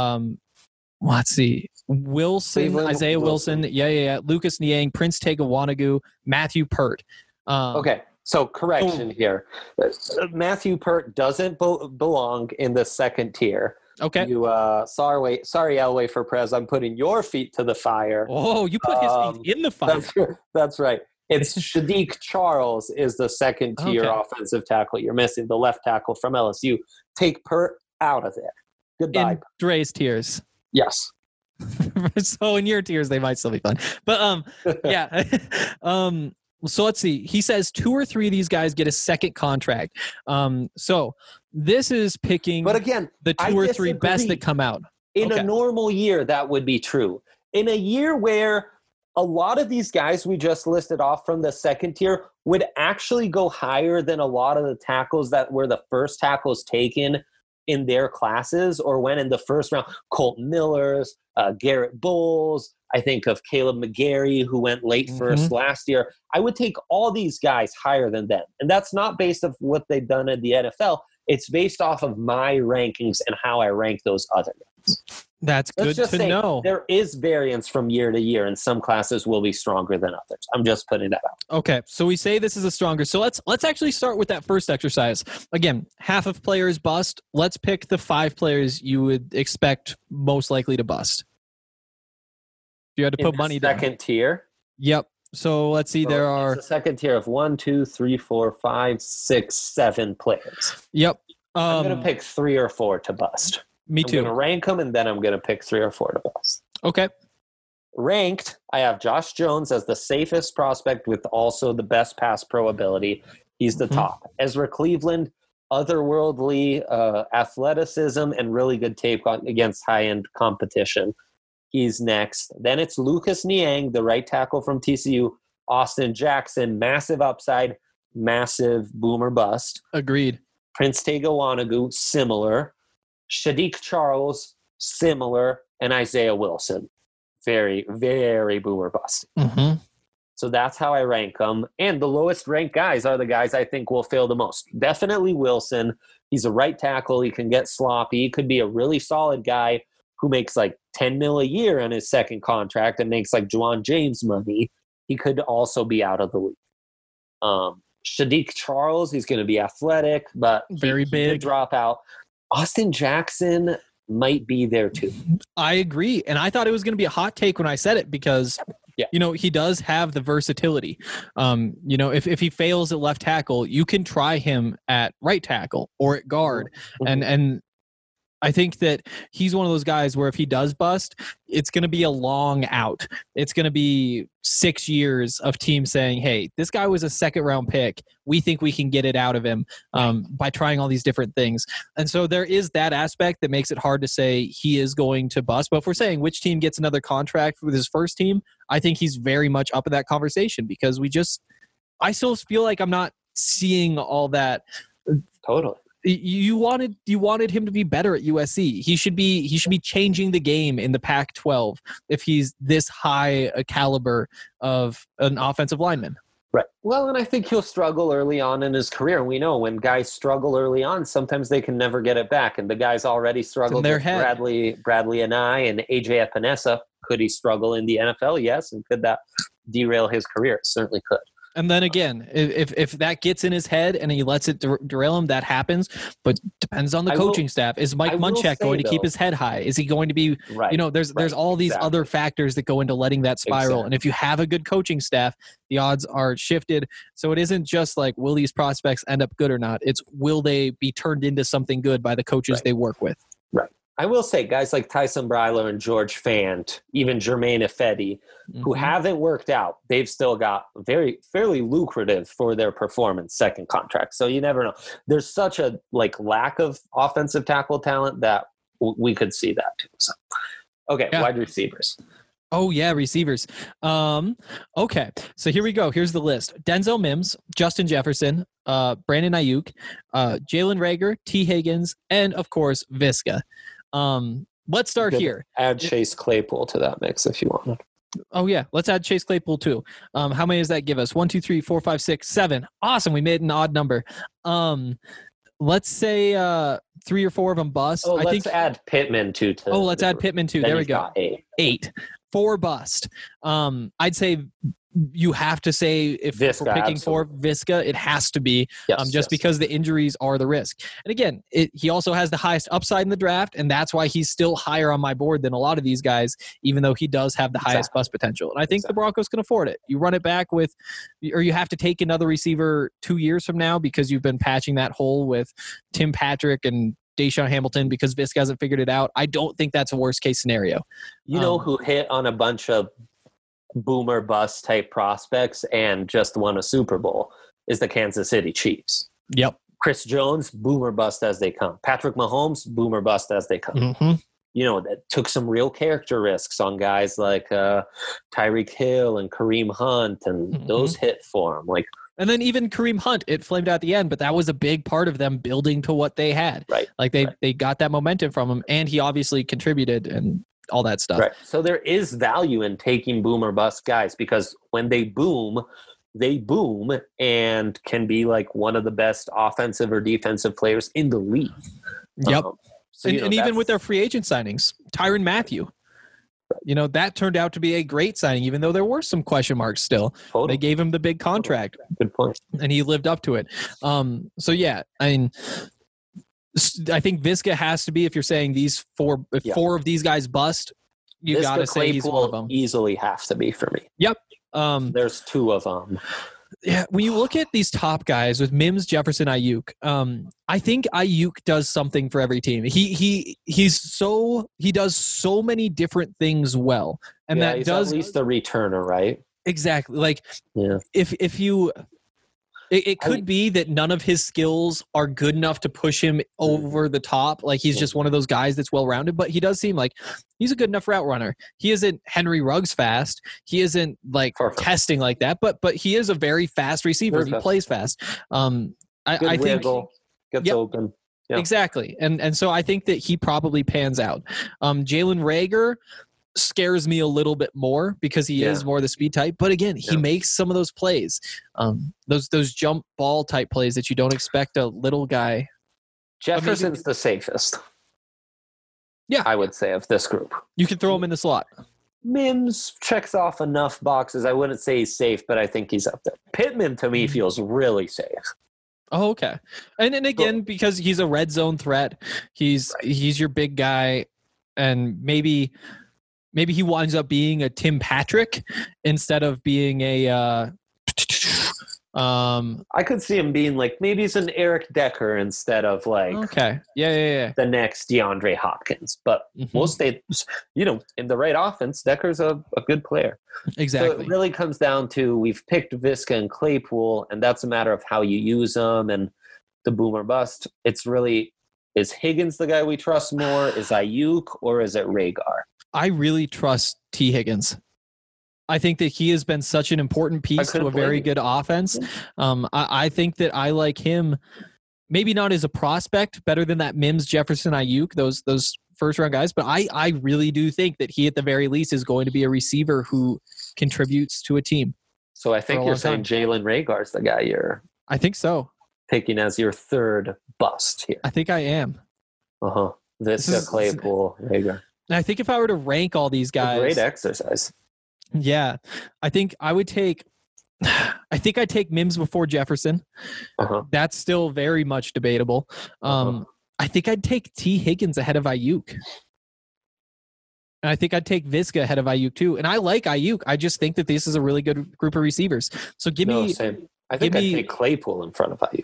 Let's see. Wilson, Cleveland, Isaiah Wilson. Yeah. Lucas Niang, Prince Tega Wanogho, Matthew Pert. Okay. So correction here. Matthew Pert doesn't belong in the second tier. Okay. You sorry Elway for Prez. I'm putting your feet to the fire. Oh, you put his feet in the fire. That's right. It's Shadiq Charles is the second tier offensive tackle. You're missing the left tackle from LSU. Take Pert out of there. Goodbye. In Dre's tiers. Yes. So in your tiers, they might still be fun. But yeah. So let's see. He says 2 or 3 of these guys get a second contract. So this is picking, but again, the 2 or 3 best that come out. In a normal year, that would be true. In a year where a lot of these guys we just listed off from the second tier would actually go higher than a lot of the tackles that were the first tackles taken in their classes or went in the first round. Colton Miller's, Garrett Bowles. I think of Caleb McGarry, who went late first last year. I would take all these guys higher than them. And that's not based off what they've done in the NFL. It's based off of my rankings and how I rank those other guys. That's good to know. There is variance from year to year, and some classes will be stronger than others. I'm just putting that out. Okay, so we say this is a stronger. So let's actually start with that first exercise. Again, half of players bust. Let's pick the 5 players you would expect most likely to bust. If you had to put money down. Second tier? Yep. So let's see. There are a second tier of 1, 2, 3, 4, 5, 6, 7 players. Yep. I'm going to pick 3 or 4 to bust. Me too. I'm going to rank them, and then I'm going to pick 3 or 4 to bust. Okay. Ranked, I have Josh Jones as the safest prospect with also the best pass pro ability. He's the top. Ezra Cleveland, otherworldly athleticism and really good tape against high-end competition. He's next. Then it's Lucas Niang, the right tackle from TCU. Austin Jackson, massive upside, massive boomer bust. Agreed. Prince Tega Wanogho, similar. Shadiq Charles, similar. And Isaiah Wilson, very, very boomer bust. So that's how I rank them. And the lowest ranked guys are the guys I think will fail the most. Definitely Wilson. He's a right tackle. He can get sloppy. He could be a really solid guy who makes like $10 million a year on his second contract and makes like Juwan James money. he could also be out of the league. Shadik Charles, he's going to be athletic, but very he big. could drop out. Austin Jackson might be there too. I agree. And I thought it was going to be a hot take when I said it because, he does have the versatility. If he fails at left tackle, you can try him at right tackle or at guard. Mm-hmm. And I think that he's one of those guys where if he does bust, it's going to be a long out. It's going to be 6 years of teams saying, hey, this guy was a second round pick. We think we can get it out of him by trying all these different things. And so there is that aspect that makes it hard to say he is going to bust. But if we're saying which team gets another contract with his first team, I think he's very much up in that conversation because I still feel like I'm not seeing all that. Totally. You wanted him to be better at USC. He should be changing the game in the Pac-12 if he's this high a caliber of an offensive lineman. Right. Well, and I think he'll struggle early on in his career. And we know when guys struggle early on, sometimes they can never get it back. And the guys already struggled with Bradley and AJ Epinesa. Could he struggle in the NFL? Yes. And could that derail his career? It certainly could. And then again, if that gets in his head and he lets it derail him, that happens. But depends on the coaching staff. Is Mike Munchak going to keep his head high? Is he going to be? Right, there's all these other factors that go into letting that spiral. Exactly. And if you have a good coaching staff, the odds are shifted. So it isn't just like will these prospects end up good or not. It's will they be turned into something good by the coaches they work with. Right. I will say guys like Tyson Breiler and George Fant, even Germain Ifedi, who haven't worked out, they've still got fairly lucrative for their performance second contract. So you never know. There's such a lack of offensive tackle talent that we could see that too. So, okay, wide receivers. Oh, yeah, receivers. Okay, so here we go. Here's the list. Denzel Mims, Justin Jefferson, Brandon Ayuk, Jalen Reagor, T. Higgins, and, of course, Viska. Let's start here. Add Chase Claypool to that mix if you want. Oh, yeah. Let's add Chase Claypool, too. How many does that give us? 1, 2, 3, 4, 5, 6, 7. Awesome. We made an odd number. Let's say 3 or 4 of them bust. Let's add Pittman, too. Let's add Pittman, too. There we go. 8. 4 bust. I'd say you have to say if Viska, we're picking absolutely. 4 Viska, it has to be because the injuries are the risk. And again, he also has the highest upside in the draft, and that's why he's still higher on my board than a lot of these guys, even though he does have the highest bust potential. And I think the Broncos can afford it. You run it back or you have to take another receiver 2 years from now because you've been patching that hole with Tim Patrick and Deshaun Hamilton because Viska hasn't figured it out. I don't think that's a worst case scenario. You know who hit on a bunch of boomer bust type prospects and just won a Super Bowl is the Kansas City Chiefs. Yep. Chris Jones, boomer bust as they come. Patrick Mahomes, boomer bust as they come. Mm-hmm. That took some real character risks on guys like Tyreek Hill and Kareem Hunt, and those hit for him. And then even Kareem Hunt, it flamed out at the end, but that was a big part of them building to what they had. Right. They got that momentum from him, and he obviously contributed and all that stuff. Right. So there is value in taking boom or bust guys because when they boom and can be one of the best offensive or defensive players in the league. Yep. And even with their free agent signings, Tyrann Mathieu. That turned out to be a great signing, even though there were some question marks still. Totally. They gave him the big contract. Good point. And he lived up to it. So, yeah, I think Viska has to be, if you're saying these 4 of these guys bust, you got to say he's one of them. Easily have to be for me. Yep. There's 2 of them. Yeah, when you look at these top guys with Mims, Jefferson, Ayuk, I think Ayuk does something for every team. He does so many different things well, and that he's does at least a returner, right? Exactly. If you. It could be that none of his skills are good enough to push him over the top. He's just one of those guys that's well-rounded, but he does seem like he's a good enough route runner. He isn't Henry Ruggs fast. He isn't testing like that, but he is a very fast receiver. He plays fast. I think wiggle, gets open. Yep. Exactly. And so I think that he probably pans out. Jalen Reagor scares me a little bit more because he is more the speed type, but again, he makes some of those plays, those jump ball type plays that you don't expect a little guy. Jefferson's the safest. Yeah, I would say of this group. You can throw him in the slot. Mims checks off enough boxes. I wouldn't say he's safe, but I think he's up there. Pittman to me feels really safe. Oh, okay. And again, because he's a red zone threat, he's your big guy, and maybe he winds up being a Tim Patrick instead of being a I could see him being like, maybe he's an Eric Decker instead of like okay. Yeah. the next DeAndre Hopkins. But we'll stay, in the right offense, Decker's a good player. Exactly. So it really comes down to, we've picked Viska and Claypool, and that's a matter of how you use them and the boom or bust. It's really, is Higgins the guy we trust more? Is Ayuk, or is it Rhaegar? I really trust T. Higgins. I think that he has been such an important piece to a very good offense. I think that I like him, maybe not as a prospect, better than that Mims, Jefferson, Ayuk, those first round guys, but I really do think that he at the very least is going to be a receiver who contributes to a team. So I think you're saying Jalen Rhaegar's the guy you're I think so. Picking as your third bust here. I think I am. Viska, Claypool, Rhaegar. And I think if I were to rank all these guys, great exercise. Yeah, I think I would take. I think I'd take Mims before Jefferson. That's still very much debatable. I think I'd take T. Higgins ahead of Ayuk. And I think I'd take Viska ahead of Ayuk too. And I like Ayuk. I just think that this is a really good group of receivers. So same. I think I'd take Claypool in front of Ayuk.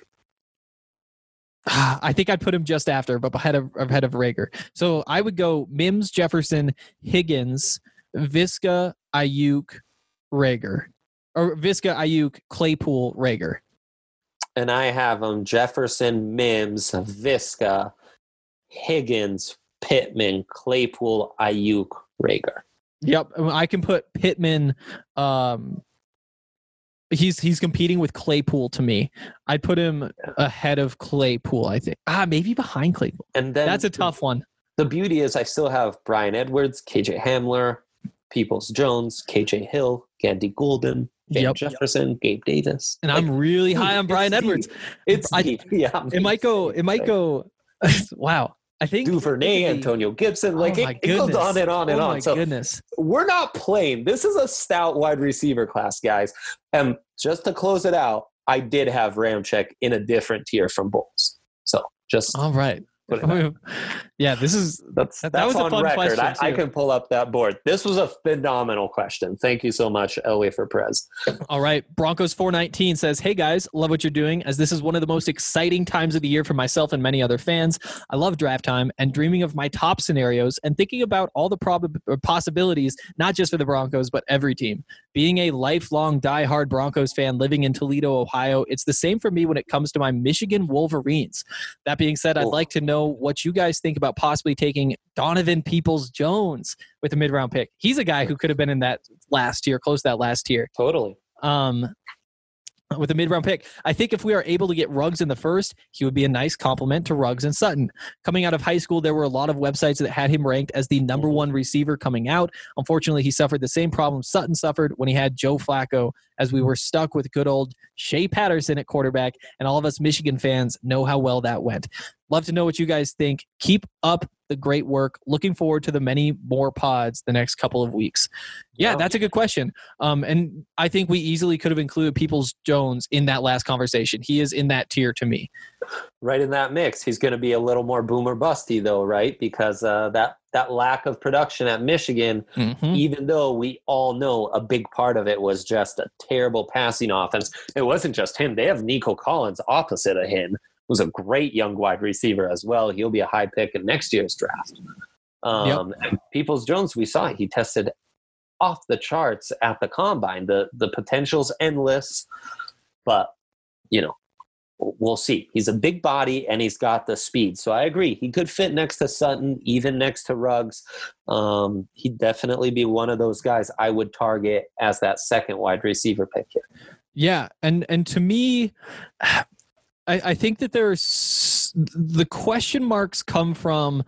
I think I'd put him just after, but ahead of Rhaegar. So I would go Mims, Jefferson, Higgins, Viska, Ayuk, Rhaegar. Or Viska, Ayuk, Claypool, Rhaegar. And I have them Jefferson, Mims, Viska, Higgins, Pittman, Claypool, Ayuk, Rhaegar. Yep. I can put Pittman. He's competing with Claypool to me. I'd put him ahead of Claypool, I think. Maybe behind Claypool. And then that's a tough one. The beauty is I still have Bryan Edwards, KJ Hamler, Peoples-Jones, KJ Hill, Gandy Golden, Van Jefferson, Gabe Davis. And I'm really high on Bryan Edwards. It's deep. Yeah. It might go. Wow. I think Duvernay, Antonio Gibson, it goes on and on and on. So goodness. We're not playing. This is a stout wide receiver class, guys. And just to close it out, I did have Ramczyk in a different tier from Bulls. So just all right. Yeah, that was on a fun record. question. I can pull up that board. This was a phenomenal question. Thank you so much, Elway, for Prez. All right. Broncos 419 says, "Hey guys, love what you're doing, as this is one of the most exciting times of the year for myself and many other fans. I love draft time and dreaming of my top scenarios and thinking about all the possibilities, not just for the Broncos, but every team. Being a lifelong diehard Broncos fan living in Toledo, Ohio, it's the same for me when it comes to my Michigan Wolverines. That being said, I'd like to know what you guys think about possibly taking Donovan Peoples-Jones with a mid-round pick. He's a guy who could have been in that last tier, close to that last tier. Totally. With a mid-round pick. I think if we are able to get Ruggs in the first, he would be a nice complement to Ruggs and Sutton. Coming out of high school, there were a lot of websites that had him ranked as the number one receiver coming out. Unfortunately, he suffered the same problem Sutton suffered when he had Joe Flacco, as we were stuck with good old Shea Patterson at quarterback, and all of us Michigan fans know how well that went. Love to know what you guys think. Keep up the great work. Looking forward to the many more pods the next couple of weeks." Yeah, that's a good question. And I think we easily could have included Peoples-Jones in that last conversation. He is in that tier to me. Right in that mix. He's going to be a little more boomer busty though, right? Because that lack of production at Michigan, even though we all know a big part of it was just a terrible passing offense. It wasn't just him. They have Nico Collins opposite of him, who's a great young wide receiver as well. He'll be a high pick in next year's draft. And Peoples-Jones, we saw he tested off the charts at the combine. The potential's endless, but we'll see. He's a big body and he's got the speed. So I agree. He could fit next to Sutton, even next to Ruggs. He'd definitely be one of those guys I would target as that second wide receiver pick here. Yeah. And to me, I think that there's the question marks come from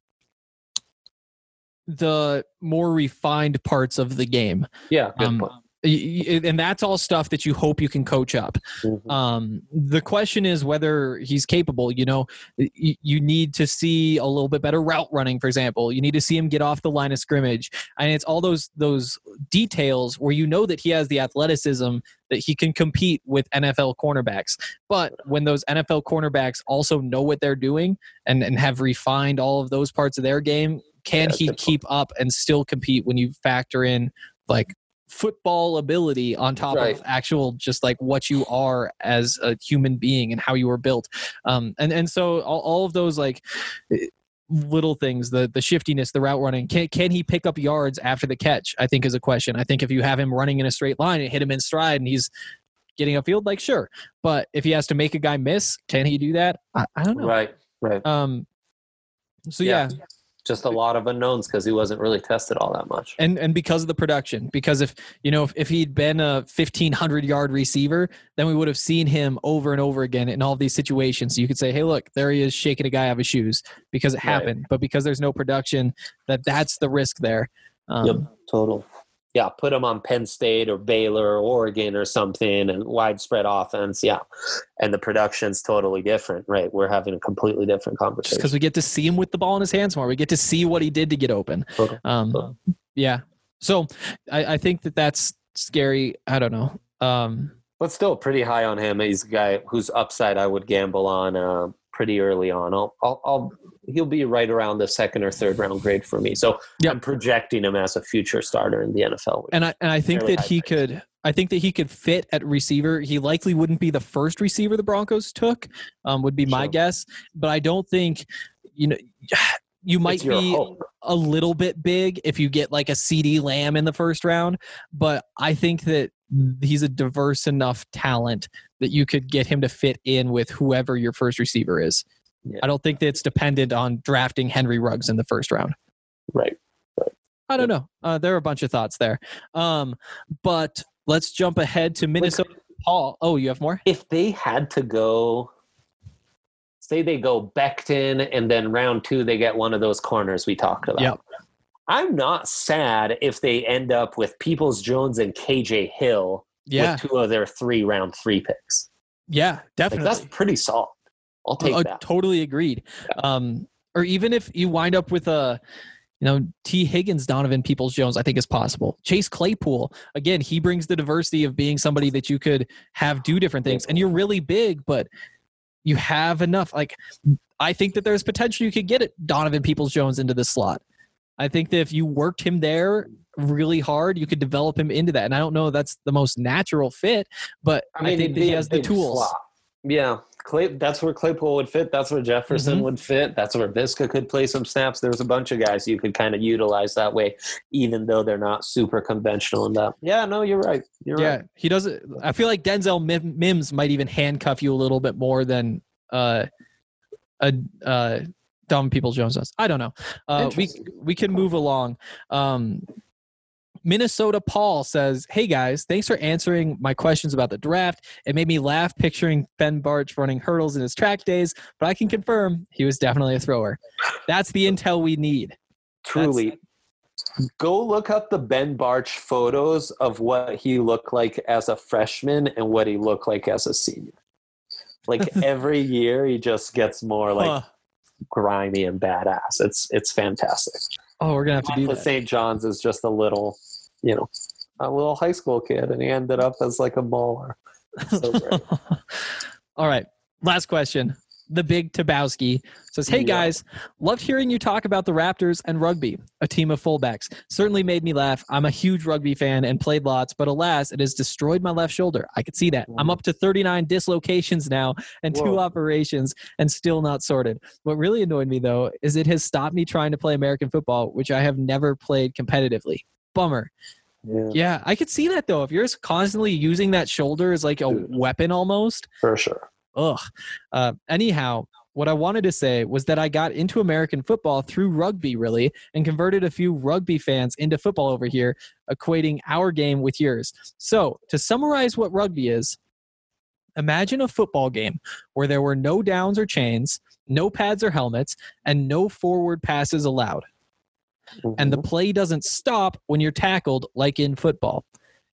the more refined parts of the game. Yeah. Good point. And that's all stuff that you hope you can coach up. The question is whether he's capable. You know, you need to see a little bit better route running, for example. You need to see him get off the line of scrimmage. And it's all those details where you know that he has the athleticism that he can compete with NFL cornerbacks. But when those NFL cornerbacks also know what they're doing and have refined all of those parts of their game, can he keep up and still compete when you factor in like football ability on top of actual just like what you are as a human being and how you were built? And so all of those like little things, the shiftiness, the route running, can he pick up yards after the catch, I think is a question. I think if you have him running in a straight line and hit him in stride and he's getting upfield, like sure. But if he has to make a guy miss, can he do that? I don't know. Right. So yeah. Just a lot of unknowns because he wasn't really tested all that much. And because of the production, because if he'd been a 1,500-yard receiver, then we would have seen him over and over again in all of these situations. So you could say, hey, look, there he is shaking a guy out of his shoes because it happened. But because there's no production, that's the risk there. Yep, total. Yeah, put him on Penn State or Baylor or Oregon or something and widespread offense. Yeah. And the production's totally different, right? We're having a completely different conversation. Just because we get to see him with the ball in his hands more. We get to see what he did to get open. Yeah. So I think that's scary. I don't know. But still pretty high on him. He's a guy whose upside I would gamble on pretty early on. He'll be right around the second or third round grade for me. So I'm projecting him as a future starter in the NFL. And I think that he could. I think that he could fit at receiver. He likely wouldn't be the first receiver the Broncos took. Would be my guess. But I don't think you might be a little bit big if you get like a CeeDee Lamb in the first round. But I think that he's a diverse enough talent that you could get him to fit in with whoever your first receiver is. Yeah. I don't think that it's dependent on drafting Henry Ruggs in the first round. Right. I don't know. There are a bunch of thoughts there. But let's jump ahead to Minnesota. Paul. Oh, you have more? If they had to go, say they go Becton and then round 2, they get one of those corners we talked about. Yep. I'm not sad if they end up with Peoples-Jones and KJ Hill with 2 of their 3 round 3 picks. Yeah, definitely. Like, that's pretty solid. I'll take that. Totally agreed. Yeah. Or even if you wind up with T. Higgins, Donovan Peoples-Jones, I think is possible. Chase Claypool, again, he brings the diversity of being somebody that you could have do different things. And you're really big, but you have enough. Like, I think that there's potential you could get Donovan Peoples-Jones into the slot. I think that if you worked him there really hard, you could develop him into that. And I don't know if that's the most natural fit, but I think that he has the tools. Slot. Yeah. That's where Claypool would fit. That's where Jefferson would fit. That's where Visca could play some snaps. There's a bunch of guys you could kind of utilize that way, even though they're not super conventional in that. Yeah, no, you're right. Right. He doesn't. I feel like Denzel Mims might even handcuff you a little bit more than Donovan Peoples-Jones does. I don't know. We can move along. Minnesota Paul says, hey guys, thanks for answering my questions about the draft. It made me laugh picturing Ben Bartch running hurdles in his track days, but I can confirm he was definitely a thrower. That's the intel we need. Truly. Go look up the Ben Bartch photos of what he looked like as a freshman and what he looked like as a senior. Like every year he just gets more like grimy and badass. It's fantastic. Oh, we're going to have to do that. St. John's is just a little high school kid, and he ended up as like a baller. So great. All right. Last question. The Big Tabowski says, hey guys, loved hearing you talk about the Raptors and rugby, a team of fullbacks. Certainly made me laugh. I'm a huge rugby fan and played lots, but alas, it has destroyed my left shoulder. I could see that. I'm up to 39 dislocations now and 2 operations and still not sorted. What really annoyed me, though, is it has stopped me trying to play American football, which I have never played competitively. Bummer. Yeah, I could see that, though. If you're constantly using that shoulder as like a weapon almost. For sure. Anyhow, what I wanted to say was that I got into American football through rugby, really, and converted a few rugby fans into football over here, equating our game with yours. So, to summarize what rugby is, imagine a football game where there were no downs or chains, no pads or helmets, and no forward passes allowed. And the play doesn't stop when you're tackled like in football.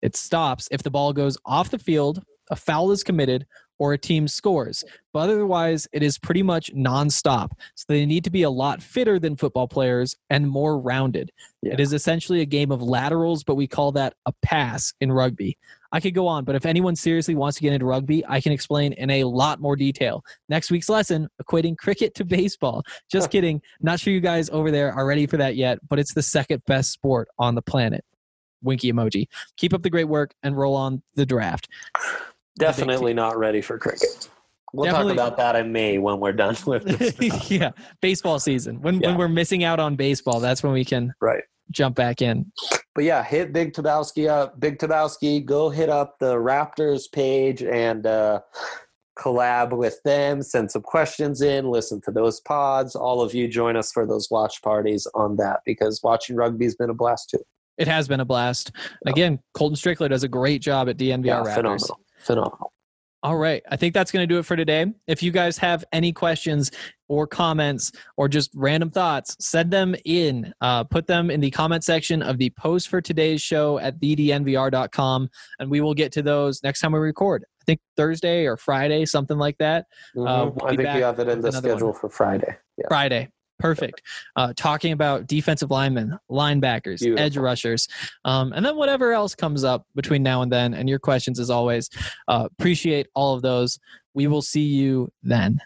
It stops if the ball goes off the field, a foul is committed, or a team scores. But otherwise, it is pretty much nonstop. So they need to be a lot fitter than football players and more rounded. Yeah. It is essentially a game of laterals, but we call that a pass in rugby. I could go on, but if anyone seriously wants to get into rugby, I can explain in a lot more detail. Next week's lesson, equating cricket to baseball. Just kidding. Not sure you guys over there are ready for that yet, but it's the second best sport on the planet. Winky emoji. Keep up the great work and roll on the draft. Definitely not ready for cricket. We'll talk about that in May when we're done with this. Yeah, baseball season. When we're missing out on baseball, that's when we can jump back in. But yeah, hit Big Tabowski up. Big Tabowski, go hit up the Raptors page and collab with them. Send some questions in. Listen to those pods. All of you join us for those watch parties on that because watching rugby has been a blast too. It has been a blast. And again, Colton Strickler does a great job at DNVR Raptors. Phenomenal. All right. I think that's going to do it for today. If you guys have any questions or comments or just random thoughts, send them in. Put them in the comment section of the post for today's show at thednvr.com, and we will get to those next time we record. I think Thursday or Friday, something like that. I think we have it in the schedule for Friday. Yeah. Friday. Perfect. Talking about defensive linemen, linebackers, edge rushers, and then whatever else comes up between now and then. And your questions, as always, appreciate all of those. We will see you then.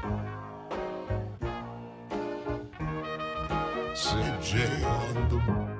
CJ on the